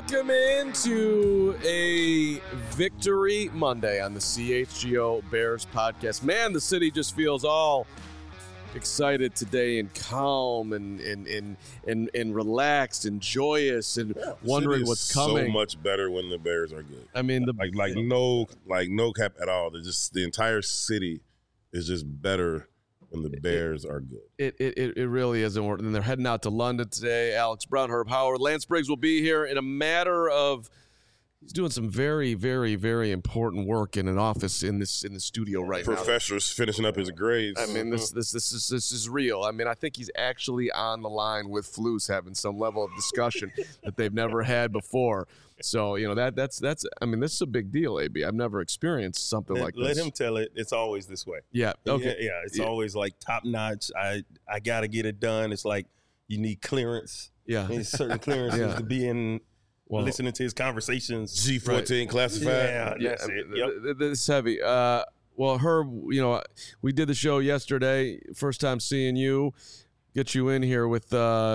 Welcome into a Victory Monday on the CHGO Bears podcast. Man, the city just feels all excited today and calm and relaxed and joyous and wondering what's coming. So much better when the Bears are good. I mean, no cap at all. The entire city is just better when the Bears are good. It really isn't. And they're heading out to London today. Alex Brown, Herb Howard, Lance Briggs will be here in a matter of. He's doing some very, very, very important work in an office in the studio right now. Professor's finishing up his grades. I mean, this is real. I mean, I think he's actually on the line with Flus having some level of discussion that they've never had before. So, that's. I mean, this is a big deal, AB. I've never experienced something like this. Let him tell it. It's always this way. Yeah. Okay. Yeah. It's always like top notch. I got to get it done. It's like you need clearance. Yeah. There's certain clearances to be in. Listening to his conversations. G14 classified. Yeah, that's it. Yep. This is heavy. Well, Herb, we did the show yesterday. First time seeing you. Get you in here with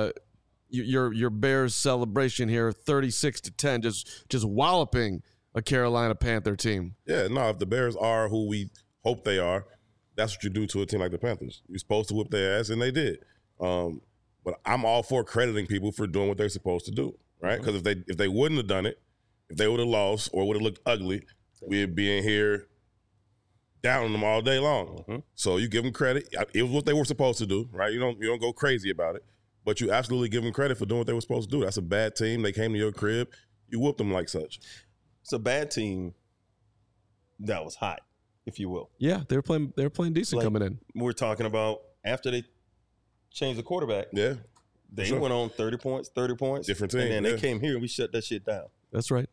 your Bears celebration here, 36-10, just walloping a Carolina Panther team. Yeah, no, if the Bears are who we hope they are, that's what you do to a team like the Panthers. You're supposed to whip their ass, and they did. But I'm all for crediting people for doing what they're supposed to do. Right, because if they wouldn't have done it, if they would have lost or would have looked ugly, we'd be in here down on them all day long. Mm-hmm. So you give them credit. It was what they were supposed to do, right? You don't go crazy about it, but you absolutely give them credit for doing what they were supposed to do. That's a bad team. They came to your crib. You whooped them like such. It's a bad team that was hot, if you will. Yeah, they were playing decent coming in. We're talking about after they changed the quarterback. Yeah. They went on 30 points. Different team. And then they came here and we shut that shit down. That's right.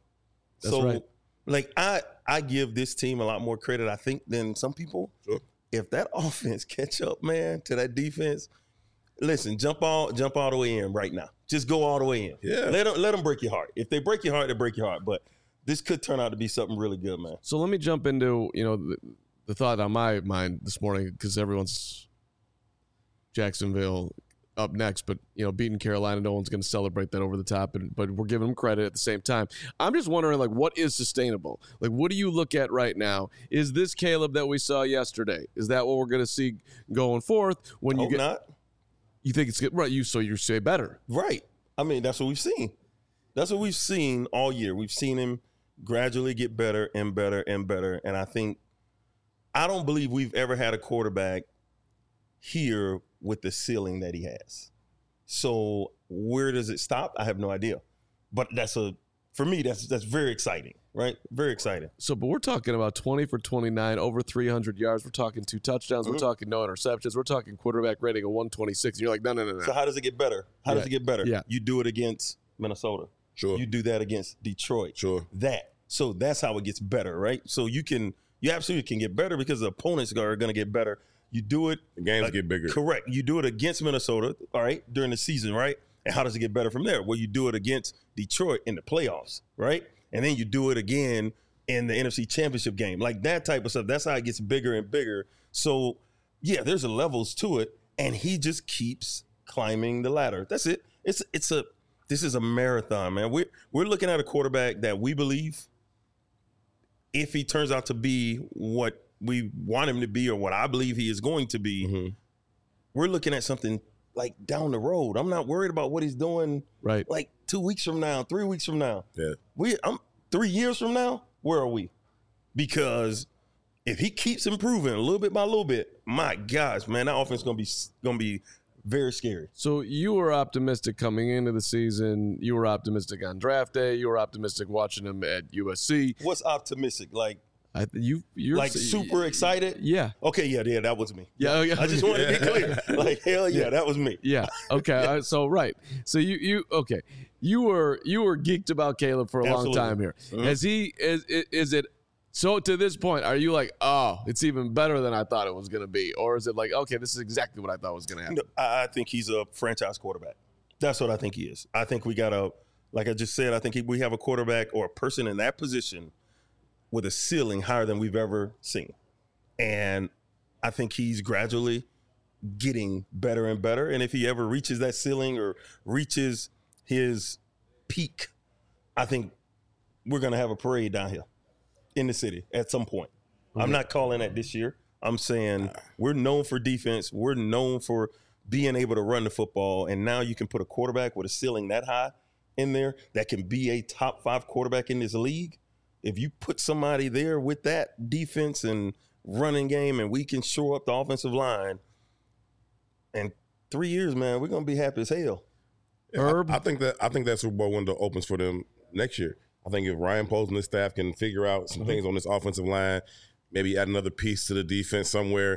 I give this team a lot more credit, I think, than some people. Sure. If that offense catch up, man, to that defense, listen, jump all the way in right now. Just go all the way in. Yeah. Let them break your heart. If they break your heart, they break your heart. But this could turn out to be something really good, man. So let me jump into, the thought on my mind this morning, because everyone's Jacksonville up next, but beating Carolina, no one's going to celebrate that over the top, but we're giving them credit at the same time. I'm just wondering, what is sustainable? What do you look at right now? Is this Caleb that we saw yesterday? Is that what we're going to see going forth? When Hope not. You think it's good, right? You say better, right? I mean, that's what we've seen. That's what we've seen all year. We've seen him gradually get better and better and better, and I don't believe we've ever had a quarterback here with the ceiling that he has. So where does it stop? I have no idea. But for me, that's very exciting, right? Very exciting. So, but we're talking about 20 for 29, over 300 yards. We're talking 2 touchdowns. Mm-hmm. We're talking no interceptions. We're talking quarterback rating of 126. And you're like, no. So how does it get better? How does it get better? Yeah. You do it against Minnesota. Sure. You do that against Detroit. Sure. So that's how it gets better, right? So you absolutely can get better because the opponents are going to get better. You do it. The games get bigger. Correct. You do it against Minnesota, all right, during the season, right? And how does it get better from there? Well, you do it against Detroit in the playoffs, right? And then you do it again in the NFC Championship game. Like that type of stuff. That's how it gets bigger and bigger. So, yeah, there's levels to it. And he just keeps climbing the ladder. That's it. This is a marathon, man. We're looking at a quarterback that we believe, if he turns out to be what we want him to be or what I believe he is going to be, mm-hmm. We're looking at something like down the road. I'm not worried about what he's doing right. Like 2 weeks from now, 3 weeks from now. Yeah. I'm 3 years from now, where are we? Because if he keeps improving a little bit by a little bit, my gosh, man, that offense is gonna be very scary. So you were optimistic coming into the season. You were optimistic on draft day. You were optimistic watching him at USC. What's optimistic? You're like super excited? Yeah. Okay, yeah, that was me. Yeah. I just wanted to be clear. Like, hell yeah, that was me. Yeah. Okay. So right. So you were geeked about Caleb for a long time here. Mm-hmm. Is it so to this point, are you like, oh, it's even better than I thought it was going to be? Or is it like, okay, this is exactly what I thought was going to happen? No, I think he's a franchise quarterback. That's what I think he is. I think we got like I just said, I think we have a quarterback or a person in that position with a ceiling higher than we've ever seen. And I think he's gradually getting better and better. And if he ever reaches that ceiling or reaches his peak, I think we're going to have a parade down here in the city at some point. I'm not calling that this year. I'm saying we're known for defense. We're known for being able to run the football. And now you can put a quarterback with a ceiling that high in there that can be a top 5 quarterback in this league. If you put somebody there with that defense and running game and we can shore up the offensive line, in 3 years, man, we're going to be happy as hell. Yeah, I think that Super Bowl window opens for them next year. I think if Ryan Poles and his staff can figure out some things on this offensive line, maybe add another piece to the defense somewhere,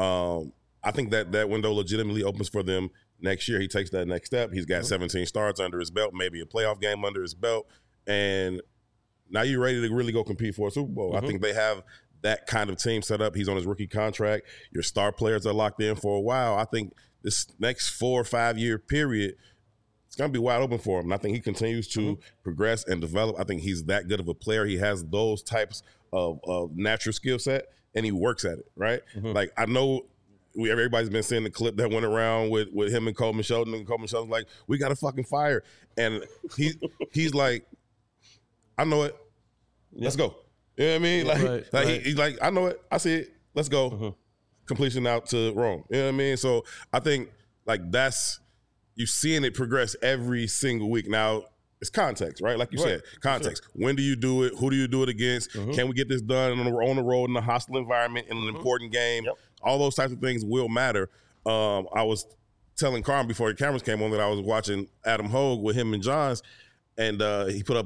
I think that window legitimately opens for them next year. He takes that next step. He's got 17 starts under his belt, maybe a playoff game under his belt, and now you're ready to really go compete for a Super Bowl. I think they have that kind of team set up. He's on his rookie contract. Your star players are locked in for a while. I think this next 4 or 5 year period, it's going to be wide open for him. And I think he continues to progress and develop. I think he's that good of a player. He has those types of natural skill set, and he works at it, right? Like, I know everybody's been seeing the clip that went around with him and Coleman Shelton, and Coleman Shelton's like, we got to fucking fire. And he's like, I know it. Let's go. You know what I mean? Like, he's like, I know it. I see it. Let's go. Completion out to Rome. You know what I mean? So I think, like, that's – you're seeing it progress every single week. Now, it's context, right? Like you said, context. Sure. When do you do it? Who do you do it against? Can we get this done on the road in a hostile environment in an important game? All those types of things will matter. I was telling Carm before the cameras came on that I was watching Adam Hogue with him and Johns, and he put up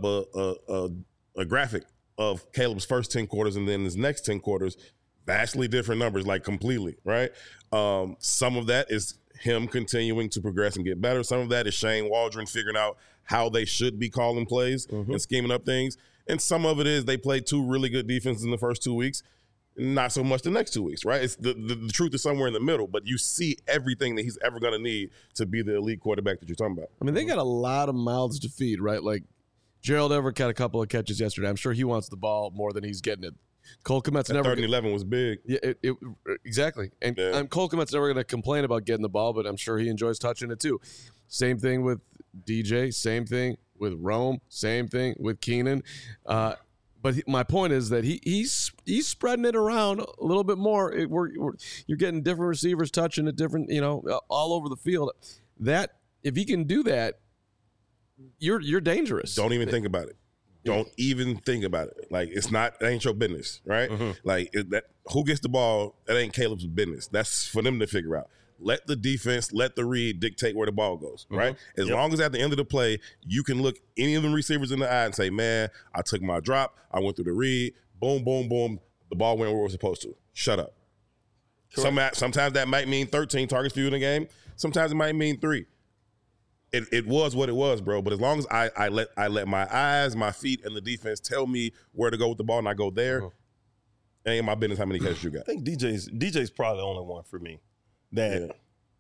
a graphic of Caleb's first 10 quarters and then his next 10 quarters, vastly different numbers, like completely, right? Some of that is him continuing to progress and get better. Some of that is Shane Waldron figuring out how they should be calling plays and scheming up things. And some of it is they played 2 really good defenses in the first 2 weeks, not so much the next 2 weeks, right? It's the truth is somewhere in the middle, but you see everything that he's ever going to need to be the elite quarterback that you're talking about. I mean, they got a lot of mouths to feed, right? Like, Gerald Everett got a couple of catches yesterday. I'm sure he wants the ball more than he's getting it. Cole Kmet's never. 3rd and 11 was big. Yeah, exactly. And Cole Kmet's never going to complain about getting the ball, but I'm sure he enjoys touching it too. Same thing with DJ. Same thing with Rome. Same thing with Keenan. But my point is that he's spreading it around a little bit more. You're getting different receivers touching it different, all over the field. That if he can do that, you're dangerous. Don't even think about it. Don't even think about it. Like, that ain't your business, right? Like, who gets the ball, that ain't Caleb's business. That's for them to figure out. Let the defense, let the read dictate where the ball goes, right? As long as at the end of the play, you can look any of the receivers in the eye and say, man, I took my drop, I went through the read, boom, boom, boom, the ball went where it was supposed to. Shut up. Sometimes that might mean 13 targets for you in a game. Sometimes it might mean 3. It was what it was, bro. But as long as I let my eyes, my feet, and the defense tell me where to go with the ball, and I go there, it ain't my business how many catches you got. I think DJ's probably the only one for me that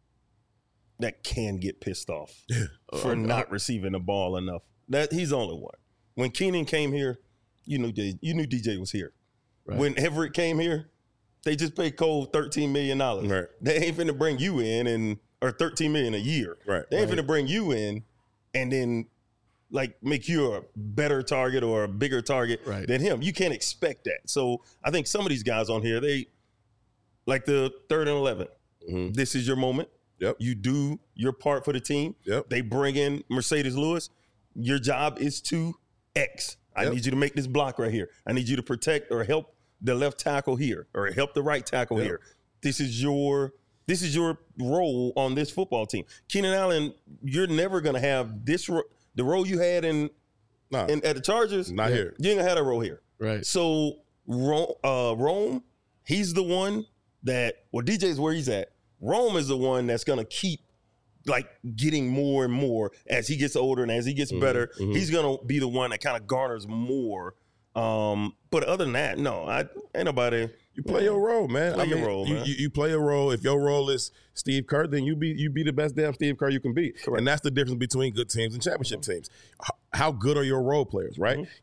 can get pissed off for not receiving the ball enough. That he's the only one. When Keenan came here, you knew DJ was here. Right. When Everett came here, they just paid Cole $13 million. Right. They ain't finna bring you in or $13 million a year. Right. They ain't finna bring you in and then like make you a better target or a bigger target than him. You can't expect that. So I think some of these guys on here, they like the 3rd and 11. This is your moment. Yep. You do your part for the team. Yep. They bring in Mercedes Lewis. Your job is to X. I need you to make this block right here. I need you to protect or help the left tackle here or help the right tackle here. This is your role on this football team. Keenan Allen, you're never going to have this the role you had at the Chargers. Not here. You ain't going to have that role here. Right. So Rome, he's the one that, DJ's where he's at. Rome is the one that's going to keep like getting more and more as he gets older and as he gets better. He's going to be the one that kind of garners more. But other than that, no, ain't nobody. You play your role, man. Play your role, man. You play a role. If your role is Steve Kerr, then you be the best damn Steve Kerr you can be. Correct. And that's the difference between good teams and championship teams. How good are your role players, right? When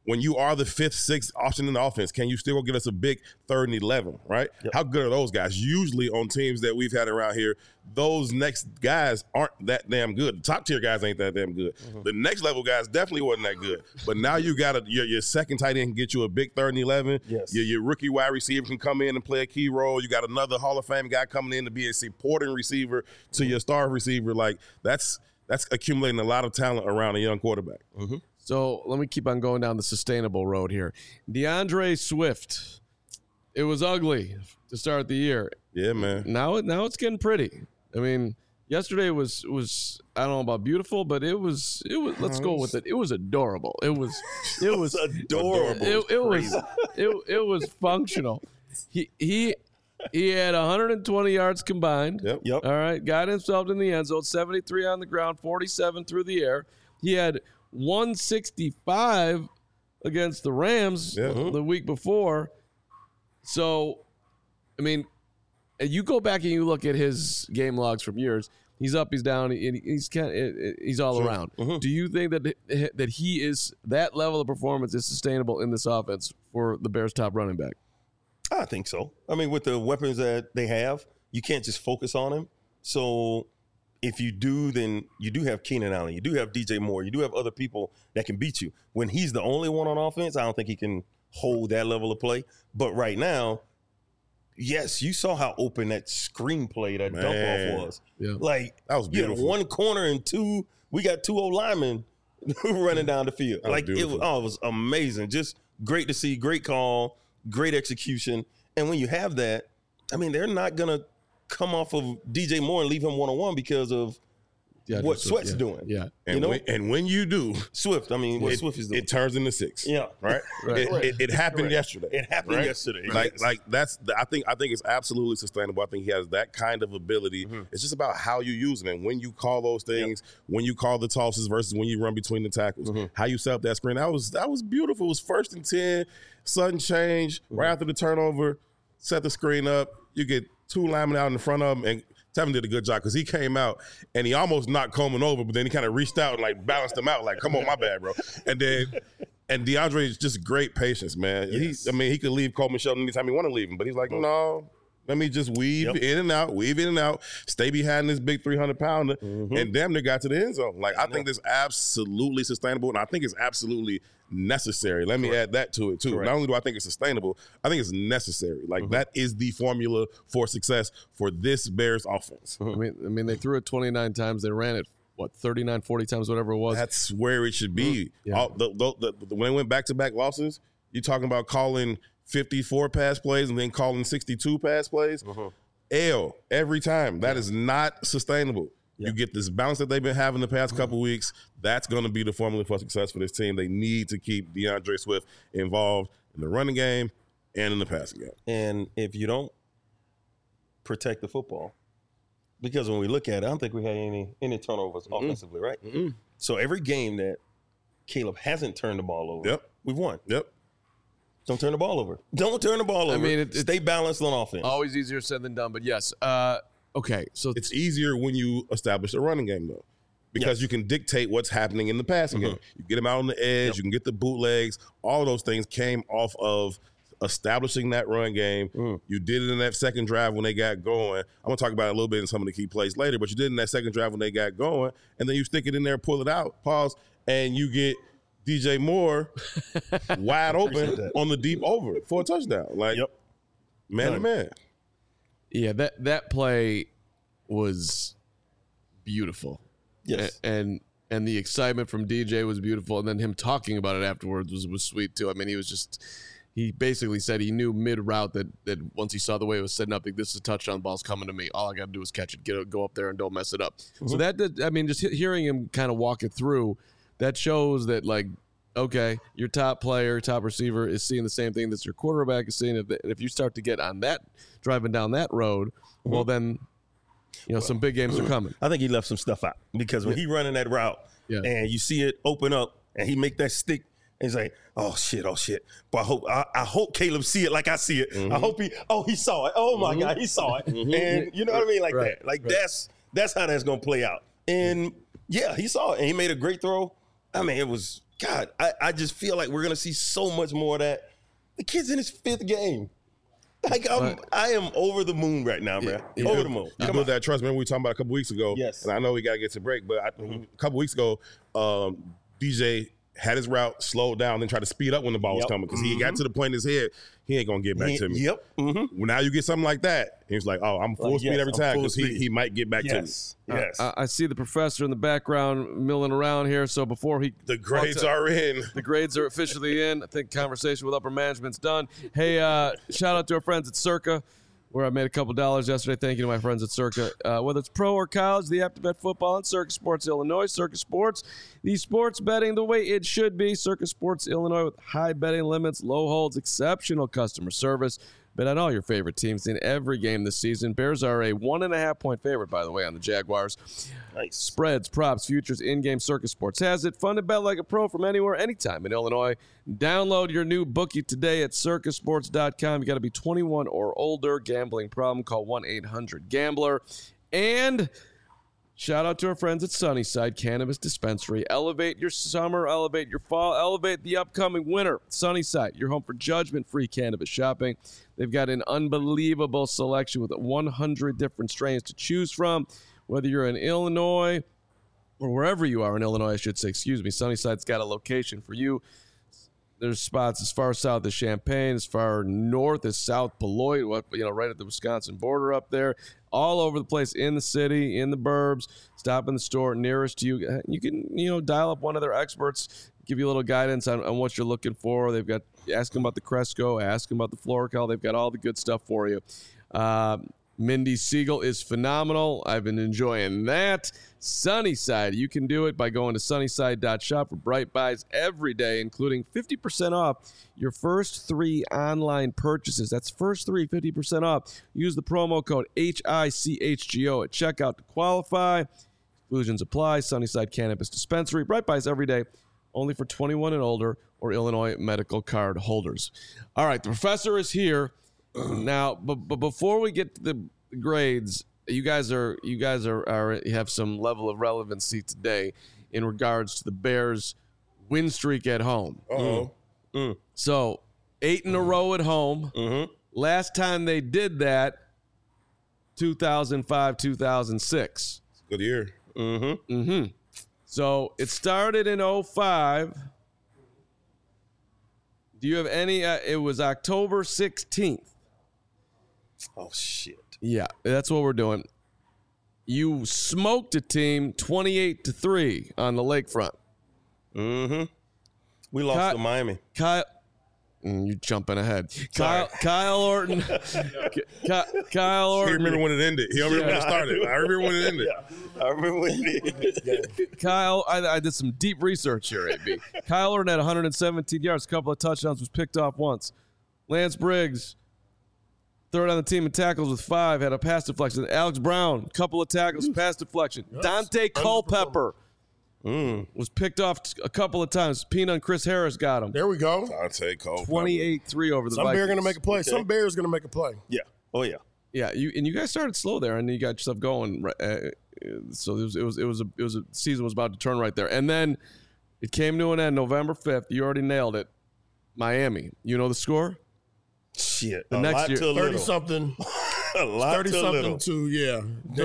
when you are the 5th, 6th option in the offense, can you still go get us a big 3rd and 11, right? Yep. How good are those guys? Usually on teams that we've had around here, those next guys aren't that damn good. The top tier guys ain't that damn good. The next level guys definitely wasn't that good. But now you got your second tight end can get you a big 3rd and 11. Yes. Your rookie wide receiver can come in and play a key role. You got another Hall of Fame guy coming in to be a supporting receiver to your star receiver. Like that's accumulating a lot of talent around a young quarterback. So let me keep on going down the sustainable road here. DeAndre Swift, it was ugly to start the year. Yeah, man. Now it's getting pretty. I mean, yesterday was I don't know about beautiful, but it was let's go with it. It was adorable. It was adorable. It was functional. He had 120 yards combined. Yep. All right, got himself in the end zone, 73 on the ground, 47 through the air. He had 165 against the Rams the week before. So, I mean, you go back and you look at his game logs from years. He's up, he's down, he's all around. Do you think that he is that level of performance is sustainable in this offense for the Bears' top running back? I think so. I mean, with the weapons that they have, you can't just focus on him. So if you do, then you do have Keenan Allen. You do have DJ Moore. You do have other people that can beat you. When he's the only one on offense, I don't think he can hold that level of play. But right now, yes, you saw how open that screen play, that dump off was. Yeah. Like, That was beautiful. You had one corner and we got 2 old linemen running down the field. That was beautiful. It was amazing. Just great to see, great call, great execution. And when you have that, I mean, they're not going to come off of DJ Moore and leave him one-on-one because of what Swift's doing. Yeah. And, when you do, Swift, I mean, what Swift is doing. it turns into 6. Yeah. Right? It happened yesterday. It happened yesterday. Like that's I think it's absolutely sustainable. I think he has that kind of ability. It's just about how you use him and when you call those things, when you call the tosses versus when you run between the tackles, how you set up that screen. That was beautiful. It was 1st and 10, sudden change, right after the turnover, set the screen up. You get 2 linemen out in front of him, and Tevin did a good job because he came out and he almost knocked Coleman over, but then he kind of reached out and like balanced him out, like, come on, my bad, bro. And DeAndre is just great patience, man. Yes. He could leave Coleman Shelton anytime he want to leave him, but he's like, no, let me just weave in and out, stay behind this big 300-pounder, and damn near got to the end zone. Like, I think this is absolutely sustainable, and I think it's absolutely necessary. Let me add that to it, too. Not only do I think it's sustainable, I think it's necessary. Like, that is the formula for success for this Bears offense. I mean, they threw it 29 times. They ran it, 39, 40 times, whatever it was. That's where it should be. Yeah. When they went back-to-back losses, you're talking about calling 54 pass plays and then calling 62 pass plays. L every time. That is not sustainable. You get this balance that they've been having the past couple weeks. That's going to be the formula for success for this team. They need to keep DeAndre Swift involved in the running game and in the passing game. And if you don't protect the football, because when we look at it, I don't think we had any turnovers offensively, right? So every game that Caleb hasn't turned the ball over, we've won. Don't turn the ball over. Don't turn the ball over. I mean, stay balanced on offense. Always easier said than done, but yes. Okay, so it's easier when you establish a running game, though, because you can dictate what's happening in the passing game. You get them out on the edge. You can get the bootlegs. All those things came off of establishing that run game. You did it in that second drive when they got going. I'm going to talk about it a little bit in some of the key plays later, but you did it in that second drive when they got going, and then you stick it in there, pull it out, pause, and you get DJ Moore wide open on the deep over for a touchdown. Like, man to man. Yeah, that play was beautiful. Yes. And the excitement from DJ was beautiful, and then him talking about it afterwards was sweet too. I mean, he basically said he knew mid-route that once he saw the way it was setting up, like, this is a touchdown, ball's coming to me. All I got to do is catch it, go up there and don't mess it up. So just hearing him kind of walk it through, that shows that, like, okay, your top player, top receiver is seeing the same thing that your quarterback is seeing. If you start to get on that, driving down that road, well, then, some big games are coming. I think he left some stuff out because when he running that route and you see it open up and he make that stick, and he's like, oh shit. But I hope Caleb see it like I see it. I hope he saw it. Oh my God, he saw it. And you know what I mean? Like that. Like that's how that's gonna play out. And yeah, he saw it and he made a great throw. I mean, it was God, I just feel like we're gonna see so much more of that. The kid's in his 5th game. Like I am over the moon right now, man. Over the moon. You build that trust. Remember we were talking about a couple weeks ago. Yes. And I know we got to get to break, but a couple weeks ago, DJ had his route, slowed down, then tried to speed up when the ball was coming because he got to the point in his head, he ain't going to get back to me. Yep. Well, now you get something like that. He was like, oh, I'm full speed every time because he might get back to me. Yes. I see the professor in the background milling around here. So before the grades are in. The grades are officially in. I think conversation with upper management's done. Hey, shout out to our friends at Circa, where I made a couple dollars yesterday. Thank you to my friends at Circa. Whether it's pro or college, the app to bet football in Circa Sports Illinois. Circa Sports, the sports betting the way it should be. Circa Sports Illinois with high betting limits, low holds, exceptional customer service. Bet on all your favorite teams in every game this season. Bears are a 1.5-point favorite, by the way, on the Jaguars. Nice. Spreads, props, futures, in-game. Circa Sports has it. Fun to bet like a pro from anywhere, anytime in Illinois. Download your new bookie today at circasports.com. You got to be 21 or older. Gambling problem, call 1-800-GAMBLER. And shout out to our friends at Sunnyside Cannabis Dispensary. Elevate your summer, elevate your fall, elevate the upcoming winter. Sunnyside, your home for judgment-free cannabis shopping. They've got an unbelievable selection with 100 different strains to choose from. Whether you're in Illinois or wherever you are in Illinois, I should say, Sunnyside's got a location for you. There's spots as far south as Champaign, as far north as South Beloit, right at the Wisconsin border up there, all over the place in the city, in the burbs. Stop in the store nearest to you. You can, dial up one of their experts, give you a little guidance on what you're looking for. They've got, ask them about the Cresco, ask them about the Florical. They've got all the good stuff for you. Mindy Siegel is phenomenal. I've been enjoying that. Sunnyside, you can do it by going to sunnyside.shop for bright buys every day, including 50% off your first 3 online purchases. That's first 3, 50% off. Use the promo code HICHGO at checkout to qualify. Exclusions apply. Sunnyside Cannabis Dispensary. Bright buys every day, only for 21 and older or Illinois medical card holders. All right, the professor is here. Now, but before we get to the grades, you guys have some level of relevancy today in regards to the Bears' win streak at home. So 8 in a row at home. Last time they did that, 2005, 2006. Good year. So it started in 2005. Do you have any? It was October 16th. Oh, shit. Yeah, that's what we're doing. You smoked a team 28-3 on the lakefront. We lost to Miami. You're jumping ahead. Kyle Orton. Kyle Orton. He remember when it ended. He don't remember when it started. I remember when it ended. I remember when it ended. Kyle, I did some deep research here, AB. Kyle Orton had 117 yards, a couple of touchdowns, was picked off once. Lance Briggs, third on the team in tackles with 5, had a pass deflection. Alex Brown, couple of tackles, pass deflection. Yes. Dante Culpepper was picked off a couple of times. Peanut and Chris Harris got him. There we go. Dante Culpepper. 28-3 over the Some Vikings. Bear going to make a play. Okay. Some Bear's going to make a play. Yeah. Oh, yeah. Yeah, you guys started slow there, and you got yourself going. So it was a season was about to turn right there, and then it came to an end November 5th. You already nailed it. Miami. You know the score? Shit. The next year, 30-something. A lot 30-something to, yeah.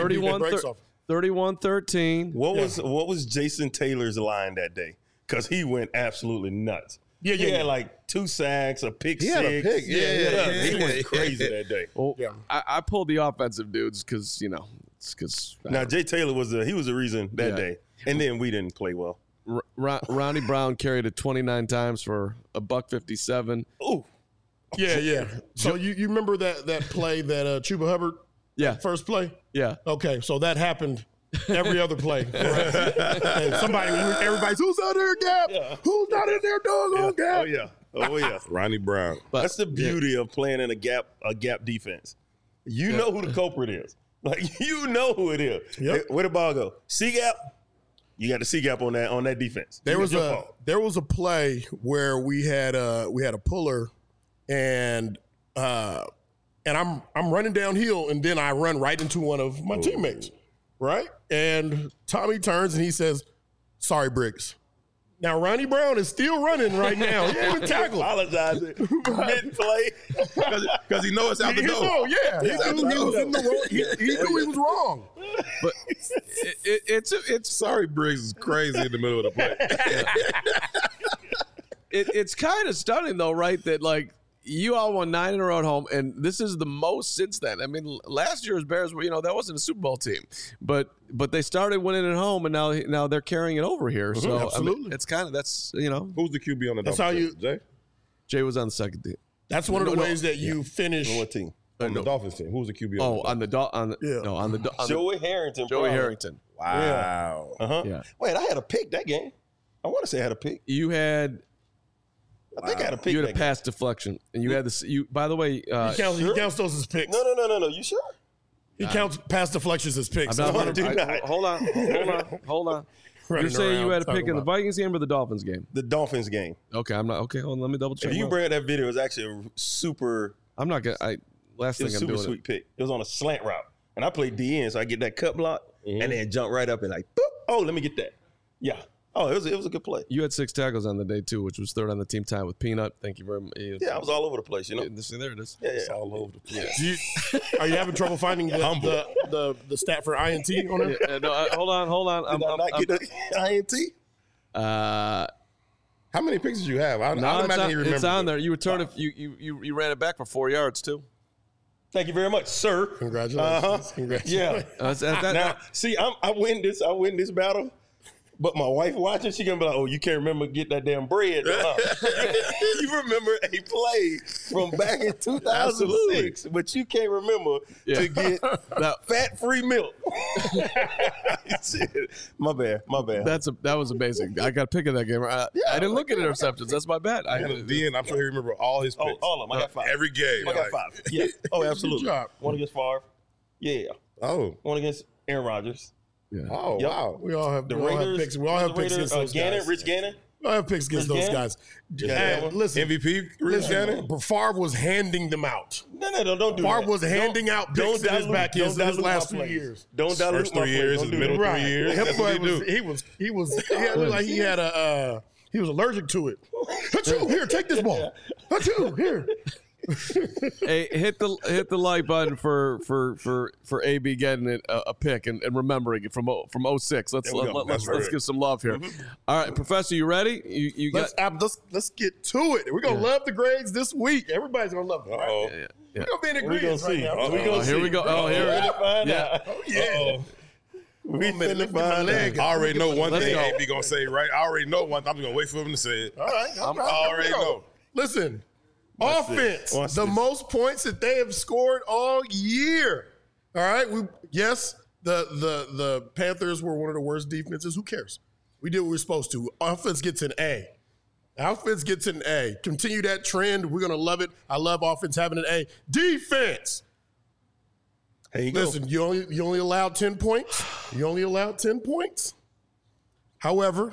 31-13. What was Jason Taylor's line that day? Because he went absolutely nuts. He had like 2 sacks, a pick six. He had a pick. He went crazy that day. Well, I pulled the offensive dudes because, Now, Jay Taylor was the reason that day. And then we didn't play well. Ronnie Brown carried it 29 times for $157. Ooh. Yeah. So you remember that play that Chuba Hubbard? Yeah. First play? Yeah. Okay, so that happened every other play. And everybody's, who's out there, Gap? Yeah. Who's not in there, doggone Gap? Oh, yeah. Ronnie Brown. But that's the beauty of playing in a gap defense. You know who the culprit is. Like, you know who it is. Yep. Where the ball go? C-gap? You got the C-gap on that defense. There was a play where we had a puller and I'm running downhill, and then I run right into one of my teammates, right? And Tommy turns and he says, "Sorry, Briggs." Now, Ronnie Brown is still running right now. He ain't even tackled. Apologizing mid-play. Because he knows it's out the door. He knew he was in the wrong. He knew he was wrong. But it's Sorry, Briggs is crazy in the middle of the play. it's kind of stunning though, right? That like you all won 9 in a row at home, and this is the most since then. I mean, last year's Bears were, that wasn't a Super Bowl team, but they started winning at home, and now they're carrying it over here. So absolutely. I mean, it's kind of Who's the QB on the That's Dolphins? how you- Jay? Jay was on the second team. That's one of the ways that you finish. What team? On the Dolphins team. Who's the QB Oh, on the Dolphins? on the Joey Harrington. Joey probably. Harrington. Wow. Uh-huh. Yeah. Wait, I had a pick that game. I want to say I had a pick. You had I think I had a pick. you had that a pass deflection, and you had this. You by the way, He counts those as picks. game. No. You sure? He counts pass deflections as picks. I'm not, No, I do not. hold on. You're Running saying you around had a pick talking in the about- Vikings game or the Dolphins game? The Dolphins game. Okay, I'm not. Okay, hold on. Let me double check. If you my- bring up that video, it was actually a super. I'm not gonna. Last It thing was I'm super doing. sweet pick. It was on a slant route, and I played DN, so I get that cut block, and then jump right up and like, boop. Oh, let me get that. Yeah. Oh, it was a good play. You had 6 tackles on the day too, which was third on the team time with Peanut. Thank you very much. Yeah, I was all over the place, you know. See, there it is. Yeah. All over the place. Are you having trouble finding the stat for INT on it? No, hold on. Did I not get the INT? How many picks did you have? I No, imagine he remembers. it's on there. You returned it. You ran it back for 4 yards too. Thank you very much, sir. Congratulations. Congratulations. Yeah. Now, see, I win this battle. But my wife watching, she gonna be like, "Oh, you can't remember get that damn bread." Huh? You remember a play from back in 2006, but you can't remember to get fat-free milk. Shit. My bad. That was amazing. I got a pick of that game. I didn't look at interceptions. That's my bad. DN, I'm sure he remember all his picks. All of them. I got 5. Every game. I got 5. Yeah. Oh, absolutely. Good job. One against Favre. Yeah. Oh. One against Aaron Rodgers. Oh, Yep. wow. We all have The we all have Raiders. picks. We all have picks against those Gannon, guys. Rich Gannon. We all have picks against those Gannon? guys. Yeah. Hey, listen, MVP, Rich Gannon? Favre was handing them out. No, don't do that. Favre was handing out picks in his back his last few plays. years. Don't dilute First my 3 plays. years, Don't his do middle that. 3 years. That's what he do. He looked like he had he was allergic to it. Achoo, here, take this ball. Achoo, here. Hey, hit the like button for AB getting it a pick and remembering it from 06. Let's give some love here. All right, Professor, you ready? You got. Let's get to it. We're gonna love the grades this week. Everybody's gonna love them. Right? Uh-oh. Yeah. We're gonna be in We gonna agreement right see. now. We gonna see. Here we go. Oh, here. We're gonna find Yeah. out. Oh yeah. We minute, finna lift my find leg out. I already know one Let's thing go. AB going to say, right? I already know one. I'm just going to wait for him to say it. All right. I already know. Listen, offense, Watch the this. most points that they have scored all year. All right. The Panthers were one of the worst defenses. Who cares? We did what we were supposed to. Offense gets an A. Offense gets an A. Continue that trend. We're gonna love it. I love offense having an A. Defense. There you go. Listen, you only allowed 10 points. You only allowed 10 points. However,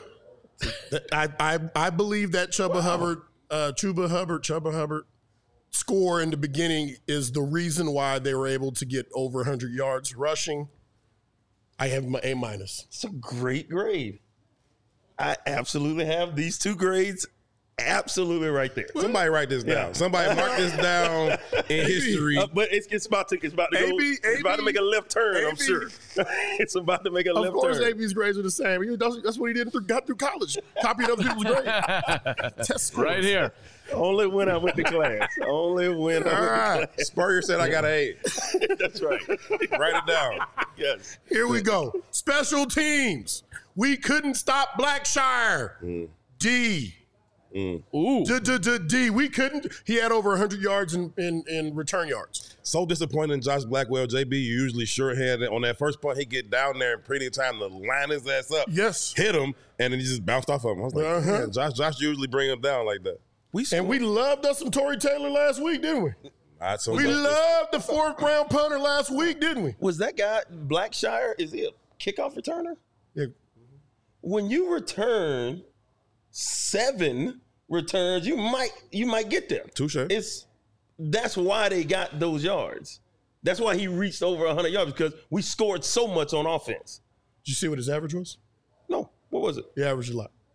I believe that Chuba Hubbard score in the beginning is the reason why they were able to get over 100 yards rushing. I have my A-. It's a great grade. I absolutely have these 2 grades absolutely right there. Somebody write this down. Yeah. Somebody mark this down in history. But it's about to go. It's about to make a left turn. I'm sure. It's about to make a Of left course, turn. AB's grades are the same. That's what he did got through college, copying other people's grades. Test scores. Right here. Only when I went to class. Only when I All went right. Spurrier said I got an A. to class. That's right. Write it down. Yes. Here we go. Special teams. We couldn't stop Blackshire. D. Ooh. D. We couldn't. He had over 100 yards in return yards. So disappointed in Josh Blackwell. JB, you usually short-handed. On that first punt, he get down there and pretty time to line his ass up. Yes. Hit him, and then he just bounced off of him. I was like, man, Josh usually bring him down like that. And we loved us some Torrey Taylor last week, didn't we? Not so We much. loved the 4th-round punter last week, didn't we? Was that guy Blackshire? Is he a kickoff returner? Yeah. When you return 7 returns, you might get there. Touche. That's why they got those yards. That's why he reached over 100 yards, because we scored so much on offense. Did you see what his average was? No, what was it? He averaged a lot.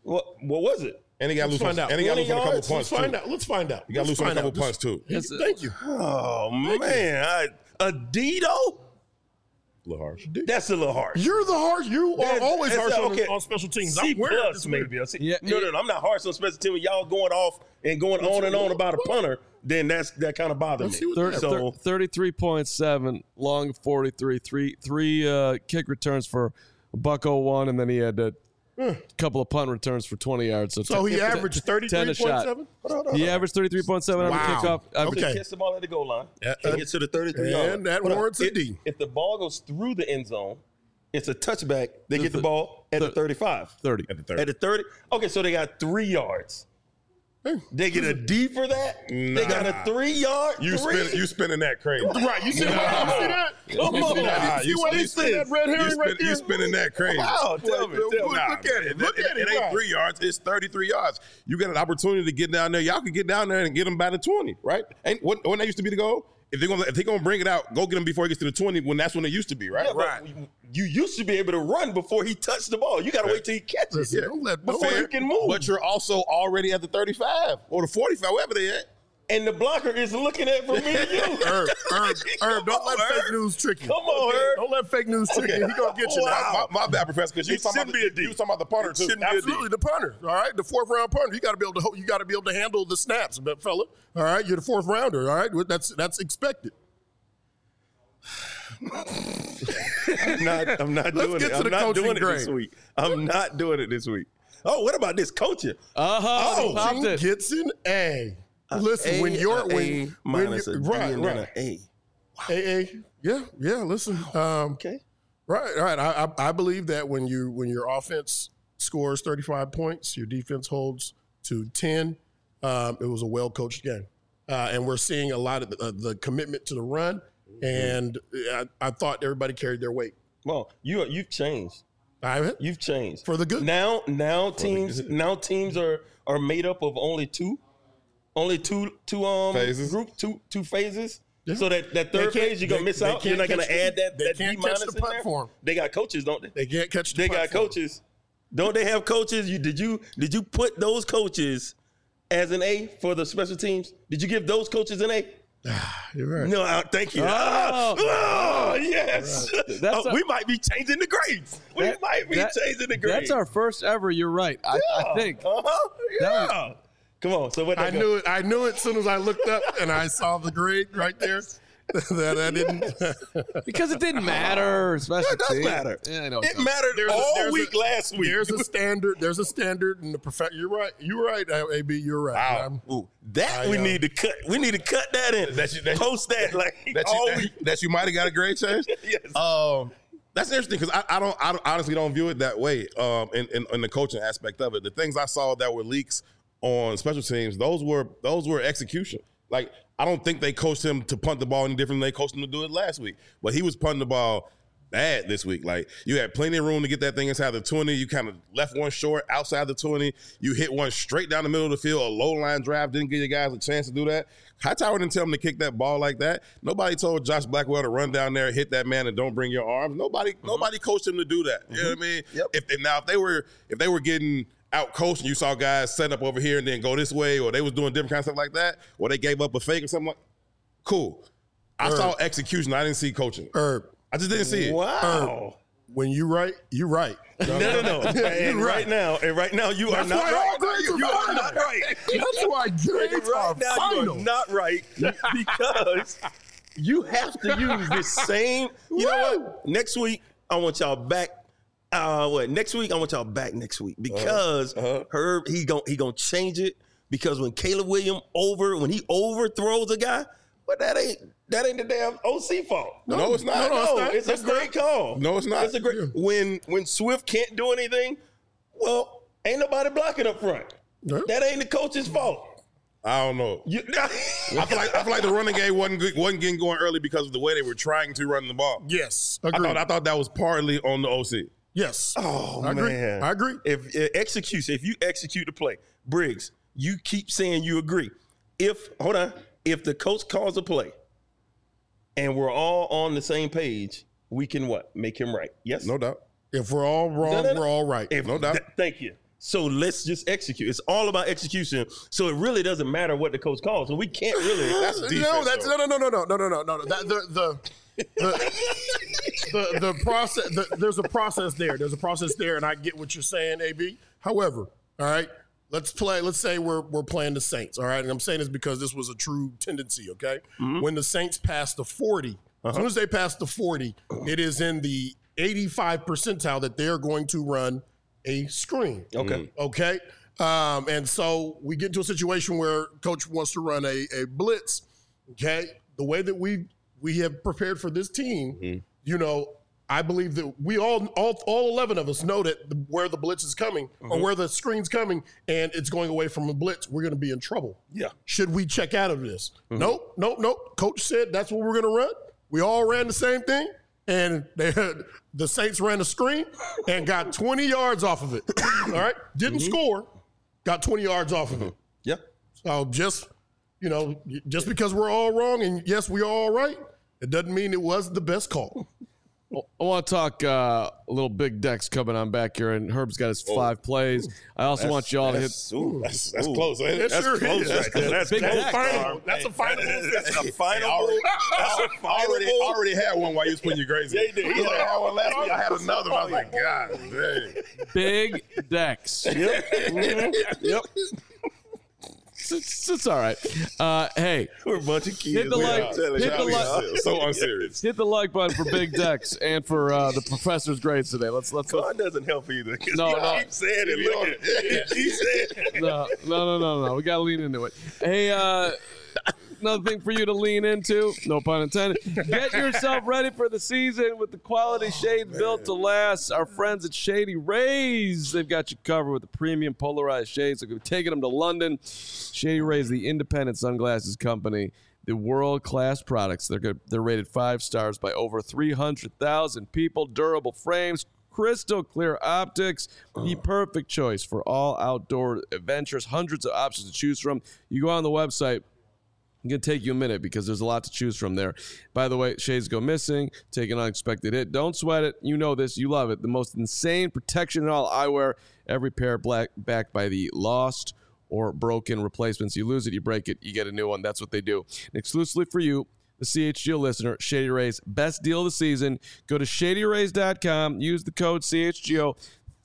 What was it? And he got loose. find out. And he got loose on a couple yards? punts Let's too. find out. Let's find out. He got loose on a couple punts too. Thank you. Oh man, a Dito? A little harsh. That's a little harsh. You're the harsh. You are That's- always that's harsh okay. on special teams. C I'm weird. plus maybe. Yeah, No, I'm not harsh on special teams. Y'all going off and going on and on about a punter, then that kind of bothers Let's see me. what that- So 33.7, long 43, three kick returns for $101, and then he had a couple of punt returns for 20 yards. So he averaged 10 a shot. 33.7? He averaged 33.7 on the Wow. kickoff. Okay. he gets the ball at the goal line and gets to the 33 yard. And that Hold on. warrants a D. If the ball goes through the end zone, it's a touchback. They get the ball at the 35. 30. At the 30. At the 30? Okay, so they got 3 yards. They get a D for that? They got a 3 yard? You spinning that crazy. Right. You see that? Come on. Nah, You see what he said? That red herring right there? You spinning that crazy. Wow, tell me. Look at it. Look at it. It ain't Right. 3 yards. It's 33 yards. You got an opportunity to get down there. Y'all can get down there and get them by the 20, right? And when that used to be the goal, if they're gonna bring it out, go get him before he gets to the 20. When that's when it used to be, right? Yeah, but you used to be able to run before he touched the ball. You got to wait till he catches it. Don't let Before Fair, you can move. But you're also already at the 35 or the 45, wherever they at. And the blocker is looking at from me to you. Herb, don't let fake news trick you. Come on, Herb. Don't let fake news trick you. He gonna get you now. My bad, Professor, because you It was talking shouldn't be a D. you was talking about the punter too. shouldn't be a D. Absolutely, the punter. All right, the 4th round punter. You got to be able to handle the snaps, but fella. All right, you're the 4th rounder. All right, that's expected. I'm not doing get it. to the I'm not coaching doing it this grade. week. I'm not doing it this week. Oh, what about this coaching? He popped Gene it. gets an A. Listen, when you're minus a D right, and then right. an A. A. Yeah. Listen. Okay. Right. I believe that when your offense scores 35 points, your defense holds to 10. It was a well coached game, and we're seeing a lot of the commitment to the run. And I thought everybody carried their weight. Well, you've changed. You've changed For the good. Now teams are made up of only two Phases. two phases. Yeah. So that They third can't- phase you're gonna they- miss they out. You're can't not gonna catch add the- that they D can't catch minus the in punt there. for 'em. They got coaches, don't they? They can't catch the They punt got for 'em. coaches. Don't they have coaches? Did you put those coaches as an A for the special teams? Did you give those coaches an A? You're right. No, thank you. Yes. That's we might be changing the grades. We might be changing the grades. That's our first ever. You're right. I think. Uh-huh. That Yeah. Come on. So what? I knew it. I knew it as soon as I looked up and I saw the grade right there. That I didn't. Because it didn't matter. Especially It does matter. Yeah, I know. It mattered There's a- all there's week last week. There's a standard. There's a standard in the You're right. You're right, AB. You're right. Wow. Ooh, that we need to cut. We need to cut that in. Post that like all week. That you might have got a grade change. Yes. That's interesting because I honestly don't view it that way. In the coaching aspect of it, the things I saw that were leaks on special teams, those were execution. Like I don't think they coached him to punt the ball any different than they coached him to do it last week. But he was punting the ball bad this week. Like you had plenty of room to get that thing inside the 20. You kind of left one short outside the 20. You hit one straight down the middle of the field. A low line drive didn't give you guys a chance to do that. Hightower didn't tell him to kick that ball like that. Nobody told Josh Blackwell to run down there, hit that man, and don't bring your arms. Nobody coached him to do that. You know what I mean? Yep. If they were getting out coached and you saw guys set up over here and then go this way, or they was doing different kind of stuff like that, or they gave up a fake or something like, cool. I saw execution. I didn't see coaching. Herb, I just didn't see it. Wow. when you right, you right. No. And right now, you are That's not why right. all grades are You are final. not right. That's why grades are Right now, you final. are not right because you have to use the same. You know what? Next week, I want y'all back. Next week, I want y'all back next week because Herb, he gonna change it because when Caleb Williams when he overthrows a guy, but that ain't the damn OC fault. No, it's not. No, it's a great call. No, it's not. It's a great when Swift can't do anything. Well, ain't nobody blocking up front. Yeah. That ain't the coach's fault. I don't know. I feel like the running game wasn't getting going early because of the way they were trying to run the ball. Yes, agreed. I thought that was partly on the OC. Yes. Oh, I agree. man. I agree. If you execute the play, Briggs, you keep saying you agree. If the coach calls a play and we're all on the same page, we can what? Make him right. Yes? No doubt. If we're all wrong, No. we're all right. No doubt. Thank you. So let's just execute. It's all about execution. So it really doesn't matter what the coach calls. So we can't really. That's defense. No. The process. There's a process there. There's a process there, and I get what you're saying, AB. However, all right, let's play. Let's say we're playing the Saints. All right, and I'm saying this because this was a true tendency. Okay, when the Saints passed the 40, as soon as they pass the 40, it is in the 85 percentile that they're going to run a screen. Okay. And so we get into a situation where coach wants to run a blitz. Okay. The way that we have prepared for this team, you know, I believe that we all 11 of us know that where the blitz is coming or where the screen's coming and it's going away from a blitz, we're going to be in trouble. Yeah. Should we check out of this? Nope. Coach said that's what we're going to run. We all ran the same thing. And the Saints ran a screen and got 20 yards off of it. All right? Didn't score, got 20 yards off of it. Yeah. So just because we're all wrong and yes, we are all right, it doesn't mean it was the best call. I want to talk a little big decks coming on back here, and Herb's got his 5 plays. I also want y'all to hit. That's close. Ain't it? That's close right there. That's big close. deck. That's a final. That's a final. I already had one while you was putting your grades in. Yeah, you did. He like, I had one last week. I had another one. I was like, God dang. Big decks. Yep. It's all right. Hey, We're a bunch of kids. hit the like. So unserious. Hit the like button for big decks and for the professor's grades today. Let's. God doesn't help either. No. Keep saying it. Look at it. Keep saying it. No. We gotta lean into it. Hey, another thing for you to lean into. No pun intended. Get yourself ready for the season with the quality shades built to last. Our friends at Shady Rays, they've got you covered with the premium polarized shades. They're taking them to London. Shady Rays, the independent sunglasses company. The world-class products. They're rated 5 stars by over 300,000 people. Durable frames, crystal clear optics, the perfect choice for all outdoor adventures. Hundreds of options to choose from. You go on the website. It's going to take you a minute because there's a lot to choose from there. By the way, shades go missing, take an unexpected hit. Don't sweat it. You know this. You love it. The most insane protection in all eyewear. Every pair backed by the lost or broken replacements. You lose it, you break it, you get a new one. That's what they do. And exclusively for you, the CHGO listener, Shady Rays, best deal of the season. Go to shadyrays.com. Use the code CHGO.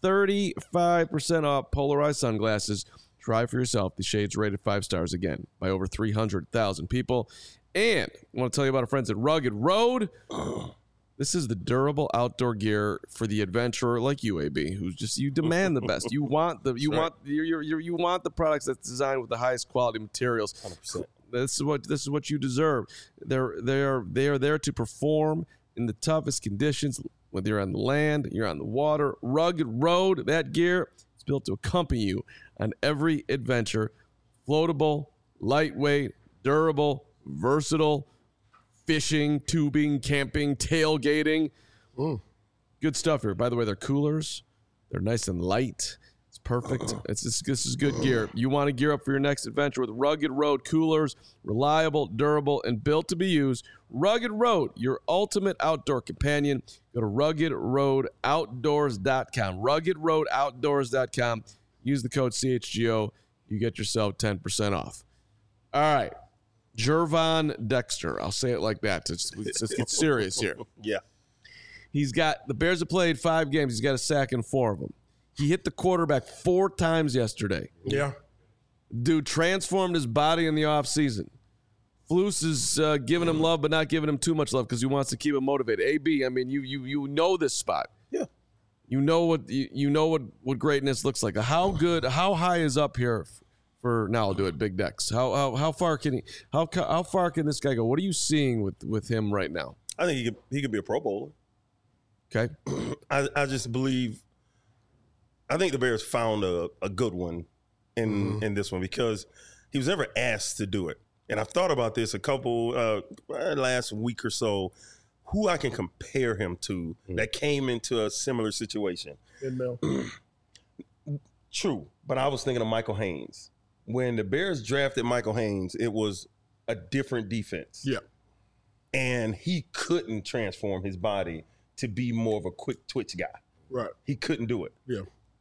35% off polarized sunglasses. Try for yourself. The shades rated 5 stars again by over 300,000 people. And I want to tell you about our friends at Rugged Road. This is the durable outdoor gear for the adventurer like you, AB, who's just, you demand the best. You want the you want the products that's designed with the highest quality materials. 100%. This is what you deserve. They are there to perform in the toughest conditions. Whether you're on the land, you're on the water, Rugged Road, that gear is built to accompany you on every adventure. Floatable, lightweight, durable, versatile. Fishing, tubing, camping, tailgating. Good stuff here. By the way, they're coolers. They're nice and light. It's perfect. This is good gear. You want to gear up for your next adventure with Rugged Road coolers. Reliable, durable, and built to be used. Rugged Road, your ultimate outdoor companion. Go to RuggedRoadOutdoors.com. RuggedRoadOutdoors.com. Use the code CHGO. You get yourself 10% off. All right. Gervon Dexter. I'll say it like that. Let's get serious here. Yeah. He's got, the Bears have played 5 games. He's got a sack in 4 of them. He hit the quarterback 4 times yesterday. Yeah. Dude transformed his body in the offseason. Flus is giving him love, but not giving him too much love because he wants to keep him motivated. AB, I mean, you know this spot. Yeah. You know what greatness looks like. How high is up here for now? I'll do it. Big Dex. How far can he? How far can this guy go? What are you seeing with him right now? I think he could be a Pro Bowler. Okay. I just believe. I think the Bears found a good one in this one because he was never asked to do it. And I've thought about this a couple last week or so. Who I can compare him to that came into a similar situation. True, but I was thinking of Michael Haynes. When the Bears drafted Michael Haynes, it was a different defense. Yeah. And he couldn't transform his body to be more of a quick twitch guy. Right. He couldn't do it. Yeah.